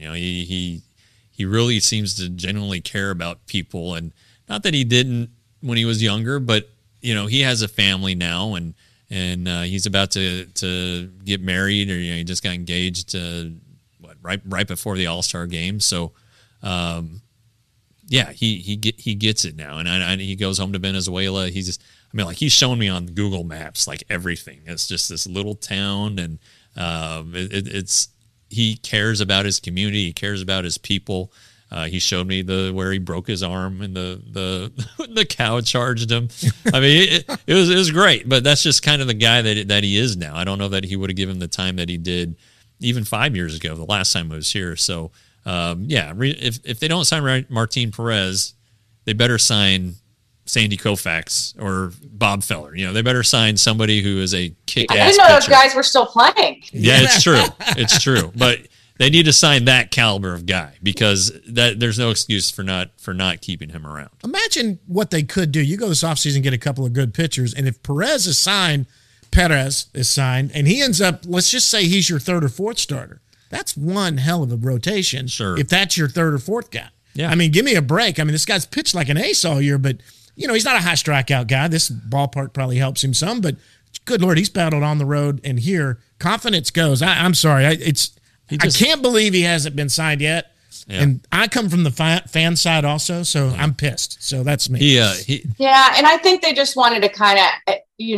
He really seems to genuinely care about people, and not that he didn't when he was younger, but he has a family now, and he's about to get married, or he just got engaged right before the All-Star game. So he gets it now, and he goes home to Venezuela. He's shown me on Google Maps like everything. It's just this little town, and he cares about his community. He cares about his people. He showed me where he broke his arm and the cow charged him. It was great, but that's just kind of the guy that he is now. I don't know that he would have given the time that he did even 5 years ago, the last time I was here. So if they don't sign Martin Perez, they better sign Sandy Koufax or Bob Feller. They better sign somebody who is a kick-ass I didn't know pitcher. those guys were still playing. Yeah, it's true. It's true. But they need to sign that caliber of guy, because there's no excuse for not keeping him around. Imagine what they could do. You go this offseason and get a couple of good pitchers, and if Perez is signed, and he ends up, let's just say he's your third or fourth starter. That's one hell of a rotation. Sure. If that's your third or fourth guy. Yeah. Give me a break. This guy's pitched like an ace all year, but he's not a high strikeout guy. This ballpark probably helps him some, but good Lord, he's battled on the road, and here confidence goes. I'm sorry. I can't believe he hasn't been signed yet. Yeah. And I come from the fan side also, so I'm pissed. So that's me. Yeah, and I think they just wanted to kind of,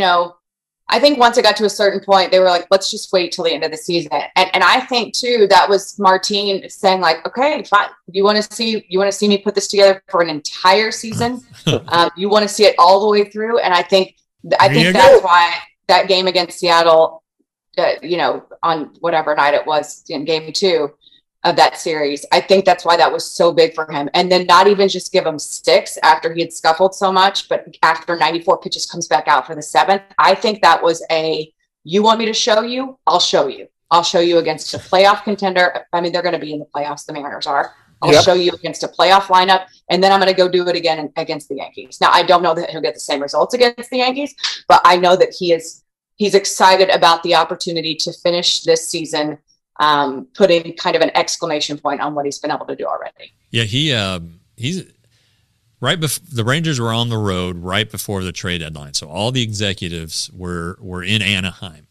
I think once it got to a certain point, they were like, let's just wait till the end of the season. And I think too, that was Martin saying like, okay, fine. You want to see me put this together for an entire season? You want to see it all the way through? And I think that's why that game against Seattle, on whatever night it was in game 2 of that series, I think that's why that was so big for him. And then not even just give him 6 after he had scuffled so much, but after 94 pitches comes back out for the 7th. I think that was you want me to show you? I'll show you. I'll show you against a playoff contender. They're going to be in the playoffs. The Mariners are. I'll show you against a playoff lineup, and then I'm going to go do it again against the Yankees. Now, I don't know that he'll get the same results against the Yankees, but I know that he's excited about the opportunity to finish this season, putting kind of an exclamation point on what he's been able to do already. Yeah, he's right before the Rangers were on the road right before the trade deadline. So all the executives were in Anaheim,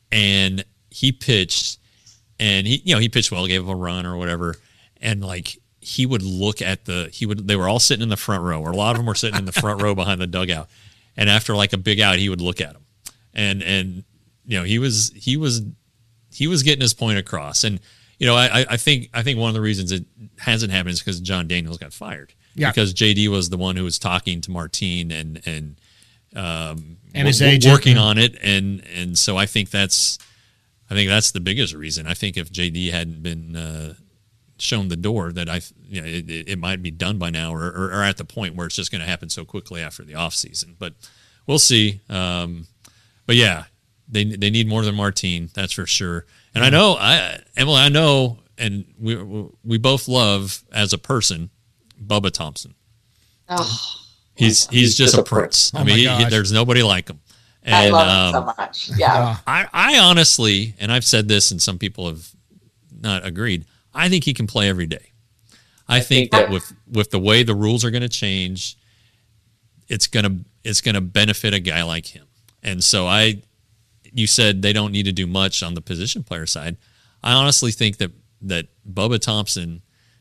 and he pitched, and he pitched well, gave him a run or whatever. And like he would look at they were all sitting in the front row, or a lot of them were sitting in the front row behind the dugout. And after like a big out, he would look at them, and he was getting his point across. And I think one of the reasons it hasn't happened is because John Daniels got fired. Yeah. Because JD was the one who was talking to Martine and his agent working on it, and so I think that's the biggest reason. I think if JD hadn't been shown the door, that it might be done by now, or at the point where it's just going to happen so quickly after the off season. But we'll see. But yeah, they need more than Martine, that's for sure. And Emily, I know, and we both love as a person Bubba Thompson. Oh, he's just a prince. Oh, I mean, there's nobody like him. And, I love him so much. Yeah. I honestly, and I've said this, and some people have not agreed, I think he can play every day. I think that with the way the rules are going to change, it's gonna benefit a guy like him. And so you said they don't need to do much on the position player side. I honestly think that Bubba Thompson,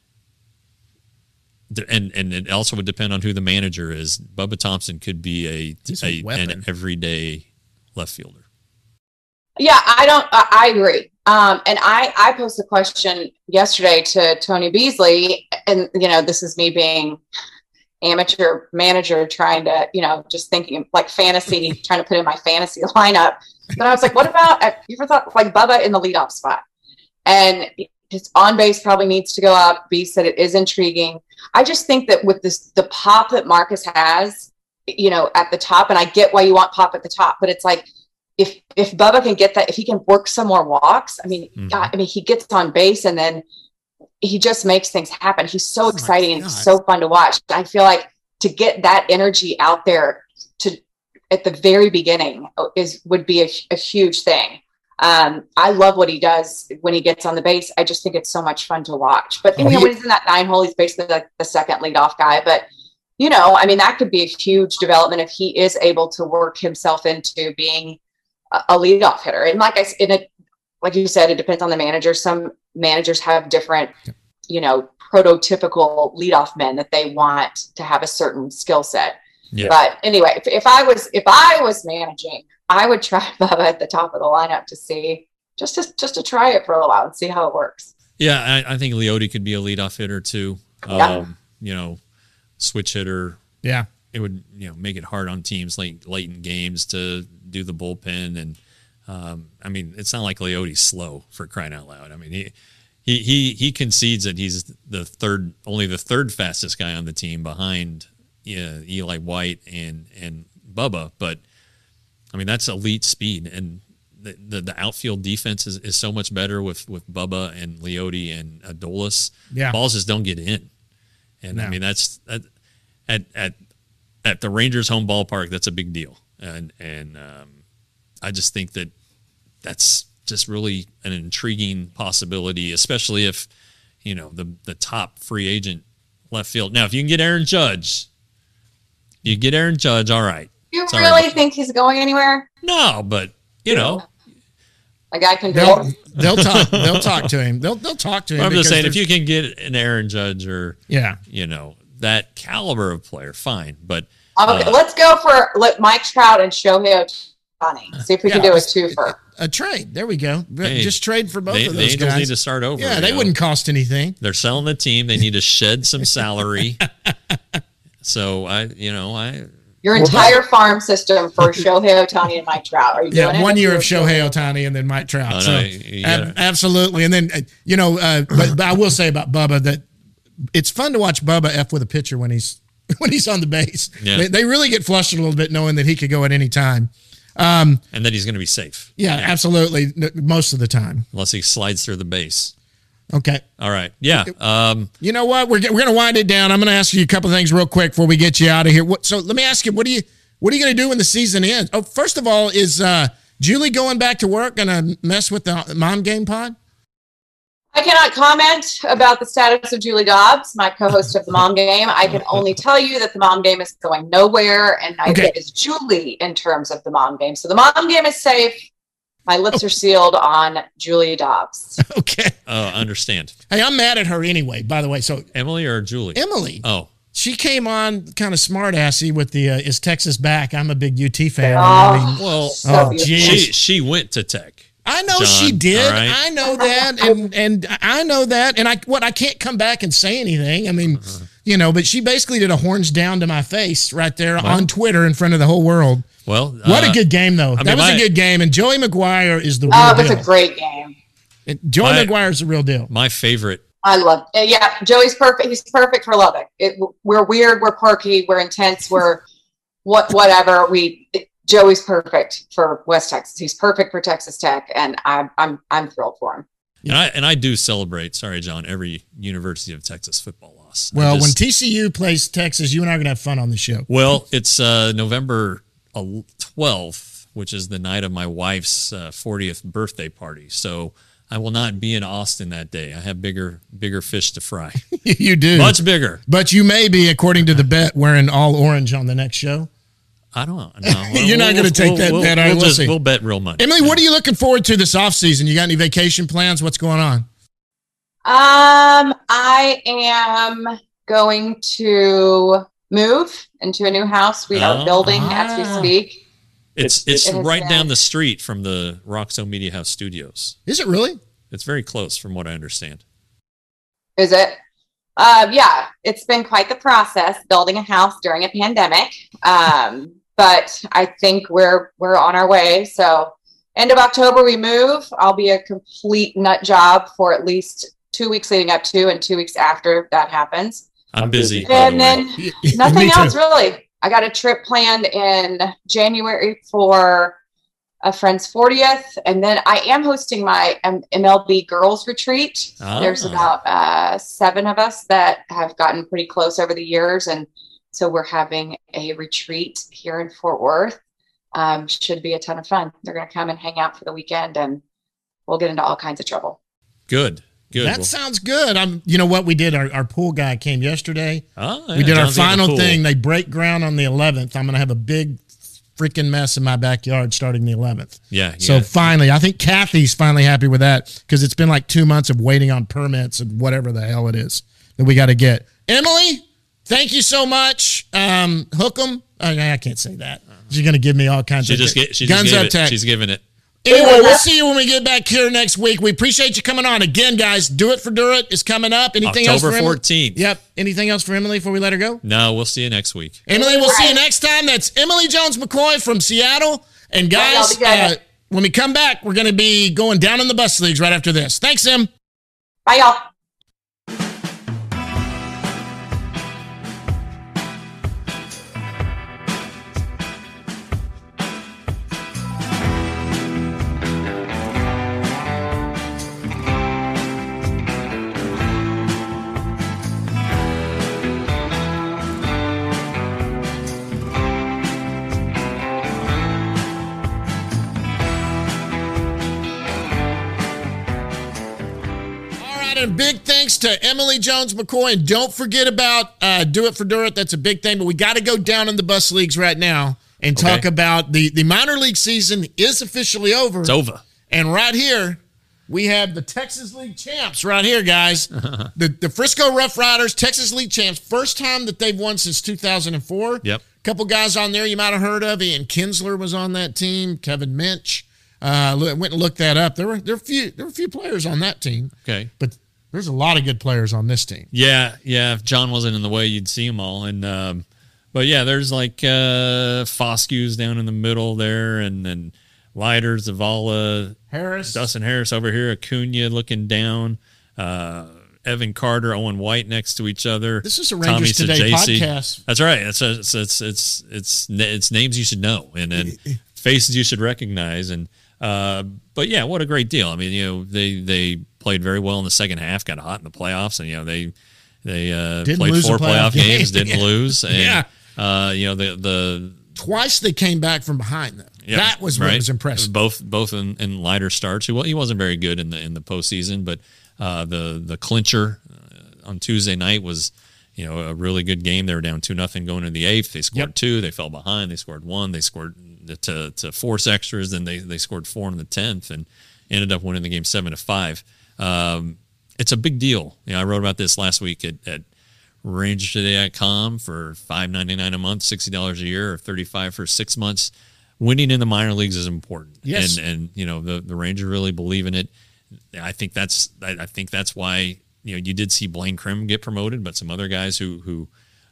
and it also would depend on who the manager is. Bubba Thompson could be an everyday left fielder. Yeah, I agree. And I posed a question yesterday to Tony Beasley, and this is me being amateur manager trying to, just thinking like fantasy, trying to put in my fantasy lineup. But I was like, what about, you ever thought like Bubba in the leadoff spot? And his on base probably needs to go up. B said it is intriguing. I just think that with the pop that Marcus has, at the top, and I get why you want pop at the top, but it's like, if Bubba can get that, if he can work some more walks, he gets on base and then he just makes things happen. He's so exciting and so fun to watch. I feel like to get that energy out there at the very beginning would be a huge thing. I love what he does when he gets on the base. I just think it's so much fun to watch. But when he's in that 9 hole, he's basically like the second leadoff guy. But that could be a huge development if he is able to work himself into being a leadoff hitter. And like you said, it depends on the manager. Some managers have different, prototypical leadoff men that they want to have a certain skill set. Yeah. But anyway, if I was managing, I would try Bubba at the top of the lineup to see, just to try it for a little while and see how it works. Yeah, I think Leote could be a leadoff hitter too. Switch hitter. Yeah. It would, make it hard on teams late in games to do the bullpen. And it's not like Leote's slow, for crying out loud. I mean, he concedes that he's only the third fastest guy on the team behind Eli White and Bubba, but that's elite speed, and the outfield defense is so much better with Bubba and Leote and Adolis. Yeah. Balls just don't get in, and no. That's at the Rangers home ballpark, that's a big deal, and I just think that's just really an intriguing possibility, especially if the top free agent left field. Now, if you can get Aaron Judge. All right. You really think he's going anywhere? No, but a guy can. They'll talk. They'll talk to him. They'll talk to him. I'm just saying, if you can get an Aaron Judge or that caliber of player, fine. But okay, let's go for Mike Trout and Shohei Ohtani. See if we can do a twofer. A trade. There we go. Just trade for both of those the Angels guys. Need to start over. Yeah, they wouldn't cost anything. They're selling the team. They need to shed some salary. So your entire farm system for Shohei Ohtani and Mike Trout. Are you doing it? 1 year of Shohei Ohtani and then Mike Trout. Absolutely. And then but I will say about Bubba that it's fun to watch Bubba F with a pitcher when he's on the base. Yeah. They really get flushed a little bit knowing that he could go at any time. And that he's going to be safe. Yeah, absolutely. Most of the time, unless he slides through the base. Okay. All right. Yeah. You know what? We're going to wind it down. I'm going to ask you a couple of things real quick before we get you out of here. So let me ask you, what are you going to do when the season ends? Oh, first of all, is Julie going back to work going to mess with the Mom Game pod? I cannot comment about the status of Julie Dobbs, my co-host of the Mom Game. I can only tell you that the Mom Game is going nowhere, and neither is Julie in terms of the Mom Game. So the Mom Game is safe. My lips are sealed on Julia Dobbs. Okay. Oh, I understand. Hey, I'm mad at her anyway, by the way. So Emily or Julie? Emily. Oh. She came on kind of smart-assy with the is Texas back? I'm a big UT fan. Well, she went to Tech. I know John, she did. right? I know that, and I know that, and I can't come back and say anything. I mean, but she basically did a horns down to my face right there on Twitter in front of the whole world. Well, what a good game though. That was a good game, and Joey McGuire is the real deal. It was a great game. Joey McGuire is the real deal. My favorite. I love it. Yeah, Joey's perfect. He's perfect for Lubbock. We're weird. We're quirky. We're intense. We're whatever. Joey's perfect for West Texas. He's perfect for Texas Tech, and I'm thrilled for him. And I do celebrate. Sorry, John. Every University of Texas football loss. Well, when TCU plays Texas, you and I are gonna have fun on the show. Well, it's November 12th, which is the night of my wife's 40th birthday party. So I will not be in Austin that day. I have bigger fish to fry. You do. Much bigger. But you may be, according to the bet, wearing all orange on the next show. I don't know. No. You're not going to take that bet. We'll bet real money. Emily, what are you looking forward to this offseason? You got any vacation plans? What's going on? I am going to move into a new house. We are building as we speak. It's right down the street from the Roxo Media House studios. Is it really? It's very close from what I understand. Is it? Yeah, it's been quite the process building a house during a pandemic. But I think we're on our way. So end of October, we move. I'll be a complete nut job for at least 2 weeks leading up to and 2 weeks after that happens. I'm busy. And then nothing else really. I got a trip planned in January for a friend's 40th. And then I am hosting my MLB girls retreat. There's about 7 of us that have gotten pretty close over the years. And so we're having a retreat here in Fort Worth. Should be a ton of fun. They're going to come and hang out for the weekend, and we'll get into all kinds of trouble. Good. That sounds good. You know what we did? Our pool guy came yesterday. Yeah, we did John's our final thing. They break ground on the 11th. I'm going to have a big freaking mess in my backyard starting the 11th. Yeah. So finally, I think Kathy's finally happy with that because it's been like 2 months of waiting on permits and whatever the hell it is that we got to get. Emily, thank you so much. Hook 'em. I can't say that. She's going to give me all kinds of guns up tech. She's giving it. Anyway, we'll see you when we get back here next week. We appreciate you coming on. Again, guys, Do It for Durrett is coming up. Anything else for October 14th. Yep. Anything else for Emily before we let her go? No, we'll see you next week. Emily, we'll see you next time. That's Emily Jones McCoy from Seattle. And guys, when we come back, we're going to be going down in the bus leagues right after this. Thanks, Em. Bye, y'all. And big thanks to Emily Jones McCoy. And don't forget about Do It for Durrett. That's a big thing. But we got to go down in the bus leagues right now and talk about the minor league season is officially over. It's over. And right here, we have the Texas League champs right here, guys. The Frisco Rough Riders, Texas League champs. First time that they've won since 2004. Yep. Couple guys on there you might have heard of. Ian Kinsler was on that team. Kevin Minch. Went and looked that up. There were a few players on that team. Okay. But there's a lot of good players on this team. Yeah. If John wasn't in the way, you'd see them all. And but yeah, there's like Foskew's down in the middle there, and then Leiter, Zavala, Harris, Dustin Harris over here, Acuna looking down, Evan Carter, Owen White next to each other. This is a Rangers Today podcast. That's right. It's names you should know and faces you should recognize. And but yeah, what a great deal. I mean, they played very well in the second half, got hot in the playoffs, and they played 4 playoff games, didn't lose. And the twice they came back from behind though. Yep, that was what was impressive. Both in lighter starts. He wasn't very good in the postseason, but the clincher on Tuesday night was a really good game. They were down 2-0 going into the 8th. They scored 2. They fell behind. They scored 1. They scored to force extras. Then they scored 4 in the 10th and ended up winning the game 7-5. It's a big deal. I wrote about this last week at RangersToday.com for $5.99 a month, $60 a year, or $35 for 6 months. Winning in the minor leagues is important. Yes. And the Rangers really believe in it. I think that's why you did see Blaine Crim get promoted, but some other guys who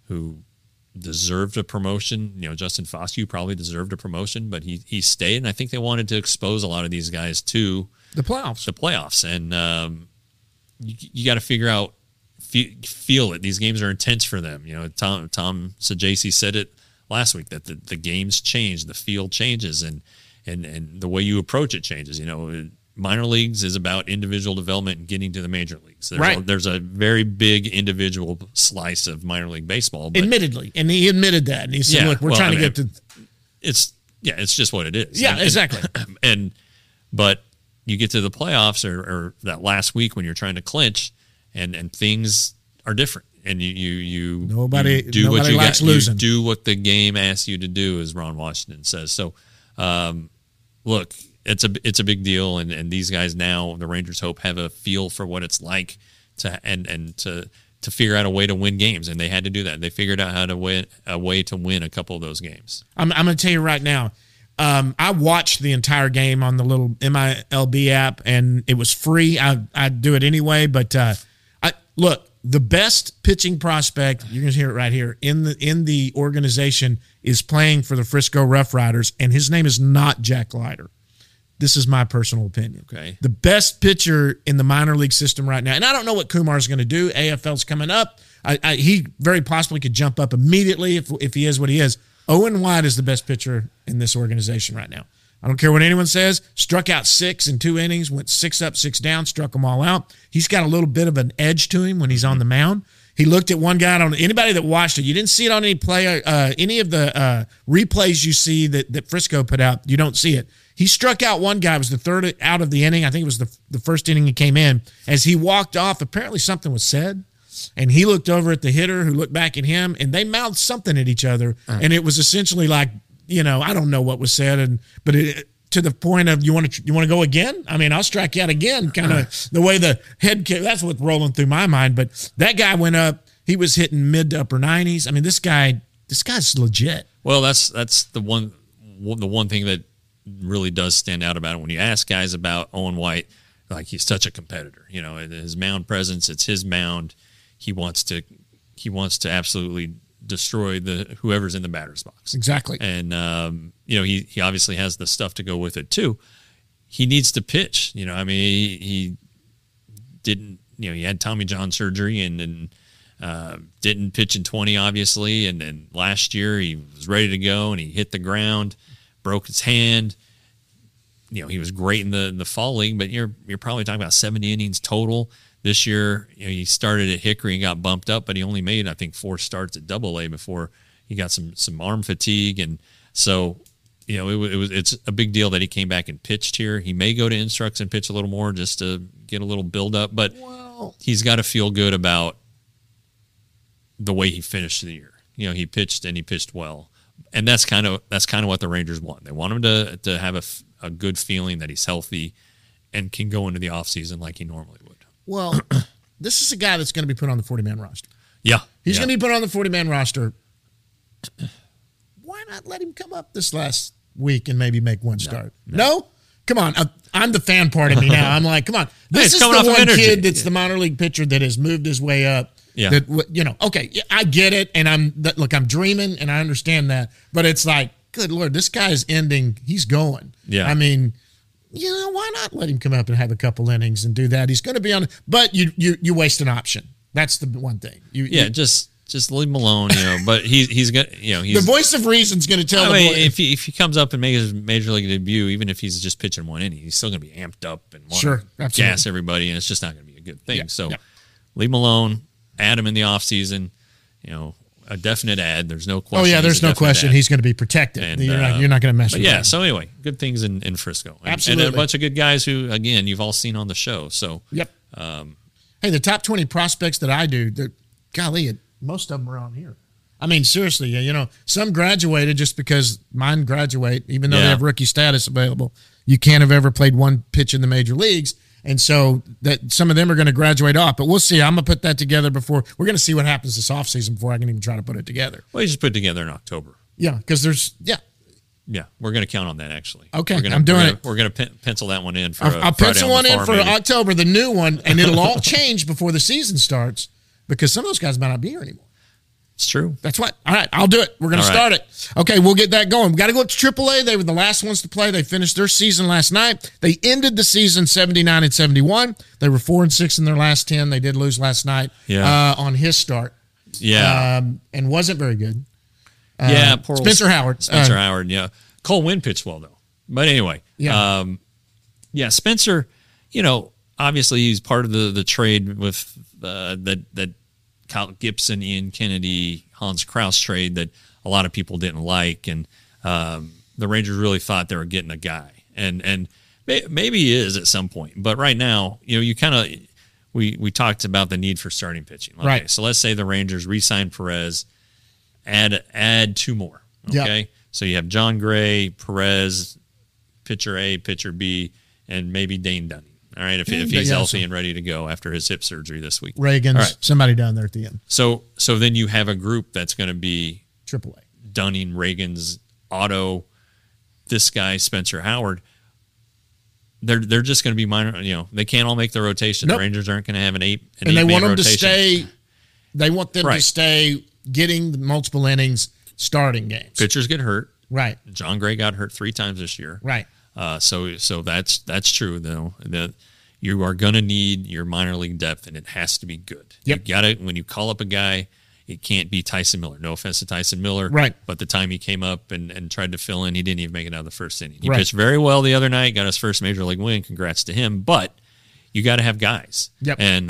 deserved a promotion. Justin Foscue probably deserved a promotion, but he stayed, and I think they wanted to expose a lot of these guys to the playoffs. And you got to figure out, feel it. These games are intense for them. Tom Sajaci said it last week that the games change, the field changes, and the way you approach it changes. Minor leagues is about individual development and getting to the major leagues. There's a very big individual slice of minor league baseball. But admittedly, and he admitted that, and he said, "Look, we're trying to get to." It's just what it is. Yeah, exactly. But you get to the playoffs or that last week when you're trying to clinch, and things are different, and you nobody likes losing. You do what the game asks you to do, as Ron Washington says. So, look. It's a big deal, and these guys now, the Rangers hope, have a feel for what it's like to figure out a way to win games, and they had to do that. They figured out how to win a way to win a couple of those games. I'm going to tell you right now, I watched the entire game on the little MILB app, and it was free. I do it anyway, but look, the best pitching prospect, you're going to hear it right here, in the organization is playing for the Frisco Rough Riders, and his name is not Jack Leiter. This is my personal opinion. Okay. The best pitcher in the minor league system right now, and I don't know what Kumar is going to do. AFL's coming up. He very possibly could jump up immediately if he is what he is. Owen White is the best pitcher in this organization right now. I don't care what anyone says. Struck out 6 in 2 innings, went 6 up, 6 down, struck them all out. He's got a little bit of an edge to him when he's on the mound. He looked at one guy. Anybody that watched it, you didn't see it on any of the replays you see that Frisco put out. You don't see it. He struck out one guy. It was the third out of the inning. I think it was the first inning he came in. As he walked off, apparently something was said, and he looked over at the hitter who looked back at him, and they mouthed something at each other, and it was essentially like, I don't know what was said, but to the point of you want to go again? I mean, I'll strike you out again. Kind of the way the head kick. That's what's rolling through my mind. But that guy went up. He was hitting mid to upper 90s. I mean, this guy's legit. Well, that's the one thing that really does stand out about it. When you ask guys about Owen White, like, he's such a competitor. His mound presence, it's his mound. He wants to absolutely destroy whoever's in the batter's box. Exactly. And he obviously has the stuff to go with it too. He needs to pitch. He didn't. He had Tommy John surgery and didn't pitch in 20, obviously. And then last year he was ready to go and he hit the ground, broke his hand. He was great in the fall league, but you're probably talking about 70 innings total. This year, he started at Hickory and got bumped up, but he only made, I think, 4 starts at Double-A before he got some arm fatigue, and so it's a big deal that he came back and pitched here. He may go to Instructs and pitch a little more just to get a little build up, but he's got to feel good about the way he finished the year. He pitched and he pitched well, and that's kind of what the Rangers want. They want him to have a good feeling that he's healthy and can go into the offseason like he normally would. Well, this is a guy that's going to be put on the 40-man roster. Yeah. He's going to be put on the 40-man roster. Why not let him come up this last week and maybe make one start? No? Come on. I'm the fan part of me now. I'm like, come on. This is the one kid that's the minor league pitcher that has moved his way up. Yeah. Okay, I get it, and I'm dreaming, and I understand that. But it's like, good Lord, this guy's ending. He's going. Yeah. I mean, why not let him come up and have a couple innings and do that? He's going to be on, but you waste an option. That's the one thing. Just leave him alone, But he's got, he's the voice of reason's going to tell him. If he comes up and makes his major league debut, even if he's just pitching one inning, he's still going to be amped up and want to gas everybody, and it's just not going to be a good thing. Leave him alone. Add him in the offseason. A definite ad. There's no question. Oh yeah, there's no question. He's going to be protected. And, you're not going to mess with him. Yeah. So anyway, good things in Frisco. Absolutely. And a bunch of good guys who, again, you've all seen on the show. So yep. Hey, the top 20 prospects that I do, golly, most of them are on here. I mean, seriously, some graduated just because mine graduate, even though they have rookie status available. You can't have ever played one pitch in the major leagues. And so that some of them are going to graduate off, but we'll see. I'm going to put that together before we're going to see what happens this offseason before I can even try to put it together. Well, you just put it together in October. Yeah. Because Yeah, we're going to count on that, actually. Okay, I'm doing it. We're going to pencil that one in for I'll pencil one in for October, the new one, and it'll all change before the season starts because some of those guys might not be here anymore. It's true. That's what. All right, I'll do it. We're going to start it. Okay, we'll get that going. We got to go up to AAA. They were the last ones to play. They finished their season last night. They ended the season 79-71. They were 4-6 in their last 10. They did lose last night on his start. Yeah. And wasn't very good. Poor Spencer Howard. Spencer Howard, yeah. Cole Winn pitched well, though. But anyway, Spencer, obviously he's part of the trade with that Kyle Gibson, Ian Kennedy, Hans Kraus trade that a lot of people didn't like. And the Rangers really thought they were getting a guy. And maybe he is at some point. But right now, you kind of – we talked about the need for starting pitching. Okay, right. So let's say the Rangers re-sign Perez, add two more. Okay. Yep. So you have John Gray, Perez, pitcher A, pitcher B, and maybe Dane Dunning. All right, if he's healthy and ready to go after his hip surgery this week. Reagan's somebody down there at the end. So then you have a group that's going to be AAA. Dunning, Reagan's, Otto, this guy, Spencer Howard. They're just going to be minor. They can't all make the rotation. Nope. The Rangers aren't going to have an eight. And they want them to stay. They want them to stay getting the multiple innings, starting games. Pitchers get hurt. Right. John Gray got hurt 3 times this year. Right. So that's true though. That you are going to need your minor league depth, and it has to be good. Yep. You got it. When you call up a guy, it can't be Tyson Miller. No offense to Tyson Miller. Right. But the time he came up and tried to fill in, he didn't even make it out of the first inning. He pitched very well the other night, got his first major league win. Congrats to him. But you got to have guys. Yep. And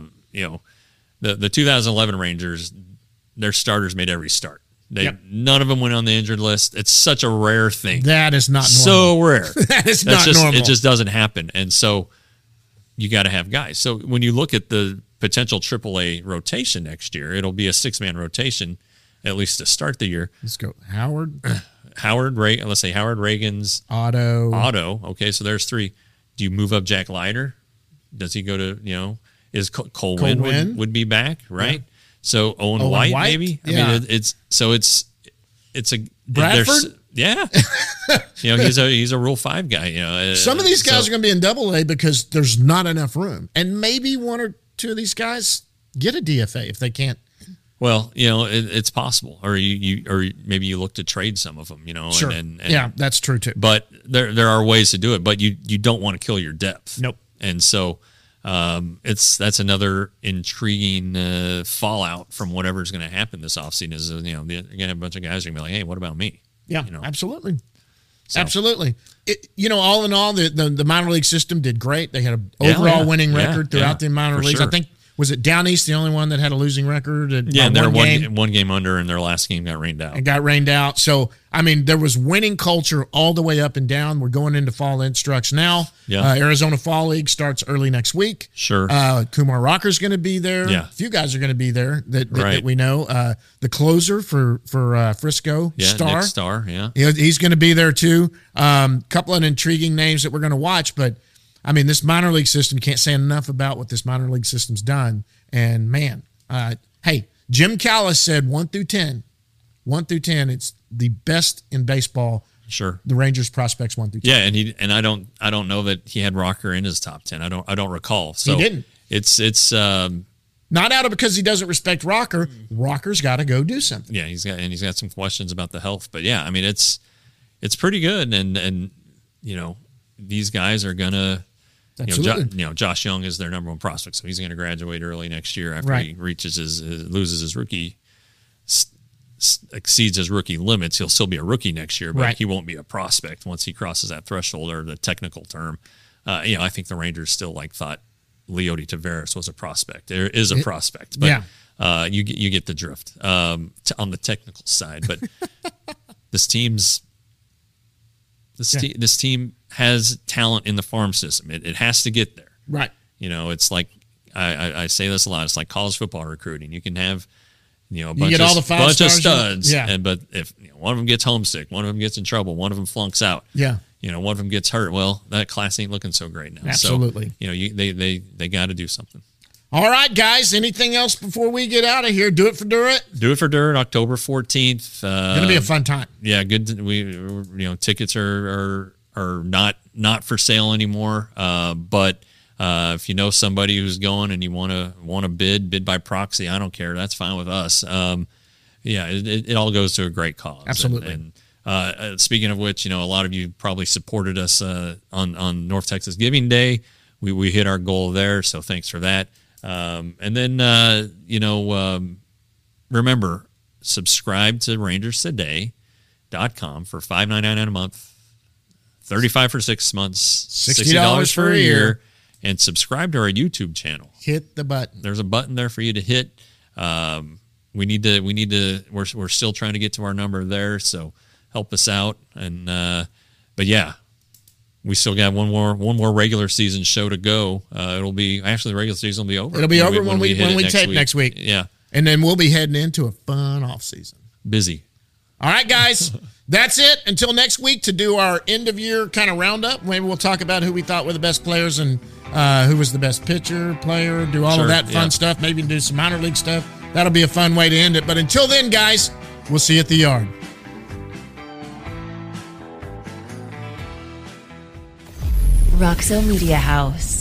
the 2011 Rangers, their starters made every start. None of them went on the injured list. It's such a rare thing. That is not normal. So rare. That is not normal. It just doesn't happen. And so you got to have guys. So when you look at the potential AAA rotation next year, it'll be a 6-man rotation, at least to start the year. Let's go. Howard, let's say Howard, Reagan's, Otto. Okay, so there's 3. Do you move up Jack Leiter? Does he go to, is Cole Winn would be back, right? Yeah. So Owen White, maybe. Yeah. I mean, it's a Bradford. Yeah, he's a Rule 5 guy. Some of these guys are going to be in Double-A because there's not enough room, and maybe 1 or 2 of these guys get a DFA if they can't. Well, it's possible, or maybe you look to trade some of them. Sure. And that's true too. But there are ways to do it, but you don't want to kill your depth. Nope. And so. That's another intriguing fallout from whatever's going to happen this offseason. Is you're going to have a bunch of guys who are going to be like, hey, what about me? Yeah, absolutely. So. Absolutely. All in all, the minor league system did great. They had an overall winning record throughout the minor leagues. Sure. I think. Was it Down East the only one that had a losing record? And they're one game under, and their last game got rained out. So, I mean, there was winning culture all the way up and down. We're going into fall instructs now. Yeah. Arizona Fall League starts early next week. Sure. Kumar Rocker's going to be there. Yeah. A few guys are going to be there that we know. The closer for Frisco, Star. Nick Star, he's going to be there too. Couple of intriguing names that we're going to watch, but I mean, this minor league system, can't say enough about what this minor league system's done. And man, hey, Jim Callis said 1 through 10, it's the best in baseball. Sure. The Rangers prospects 1 through 10. Yeah, and I don't know that he had Rocker in his top 10. I don't recall. So he didn't. It's not out of because he doesn't respect Rocker. Rocker's got to go do something. Yeah, he's got some questions about the health, but yeah, I mean it's pretty good, and these guys are gonna. Josh Young is their number 1 prospect, so he's going to graduate early next year after he loses his rookie, exceeds his rookie limits. He'll still be a rookie next year, but he won't be a prospect once he crosses that threshold, or the technical term. I think the Rangers still thought Leody Taveras was a prospect. There is a prospect, but you get the drift on the technical side. But this team has talent in the farm system. It has to get there. Right. It's like I say this a lot. It's like college football recruiting. You can have you know, a You bunch, get of, all the five bunch of stars, studs. yeah. But if one of them gets homesick, one of them gets in trouble, one of them flunks out, Yeah. you know, one of them gets hurt, well, that class ain't looking so great now. Absolutely. So, you know, they got to do something. All right, guys. Anything else before we get out of here? Do it for Durrett. Do it for Durrett, October 14th. Going to be a fun time. Yeah, good. Tickets are not for sale anymore. But if you know somebody who's going and you want to bid by proxy, I don't care. That's fine with us. It all goes to a great cause. Absolutely. And speaking of which, you know, a lot of you probably supported us on North Texas Giving Day. We hit our goal there, so thanks for that. And then remember, subscribe to RangersToday.com for $5.99 a month, $35 for 6 months, $60 for a year, and subscribe to our YouTube channel. Hit the button. There's a button there for you to hit. We need to. We're still trying to get to our number there, so help us out. And but yeah. We still got one more regular season show to go. It'll be actually the regular season will be over. It'll be over when we tape next week. Yeah, and then we'll be heading into a fun off season. Busy. All right, guys, that's it. Until next week to do our end of year kind of roundup. Maybe we'll talk about who we thought were the best players and who was the best pitcher, player. Do all of that fun stuff. Maybe do some minor league stuff. That'll be a fun way to end it. But until then, guys, we'll see you at the yard. Roxo Media House.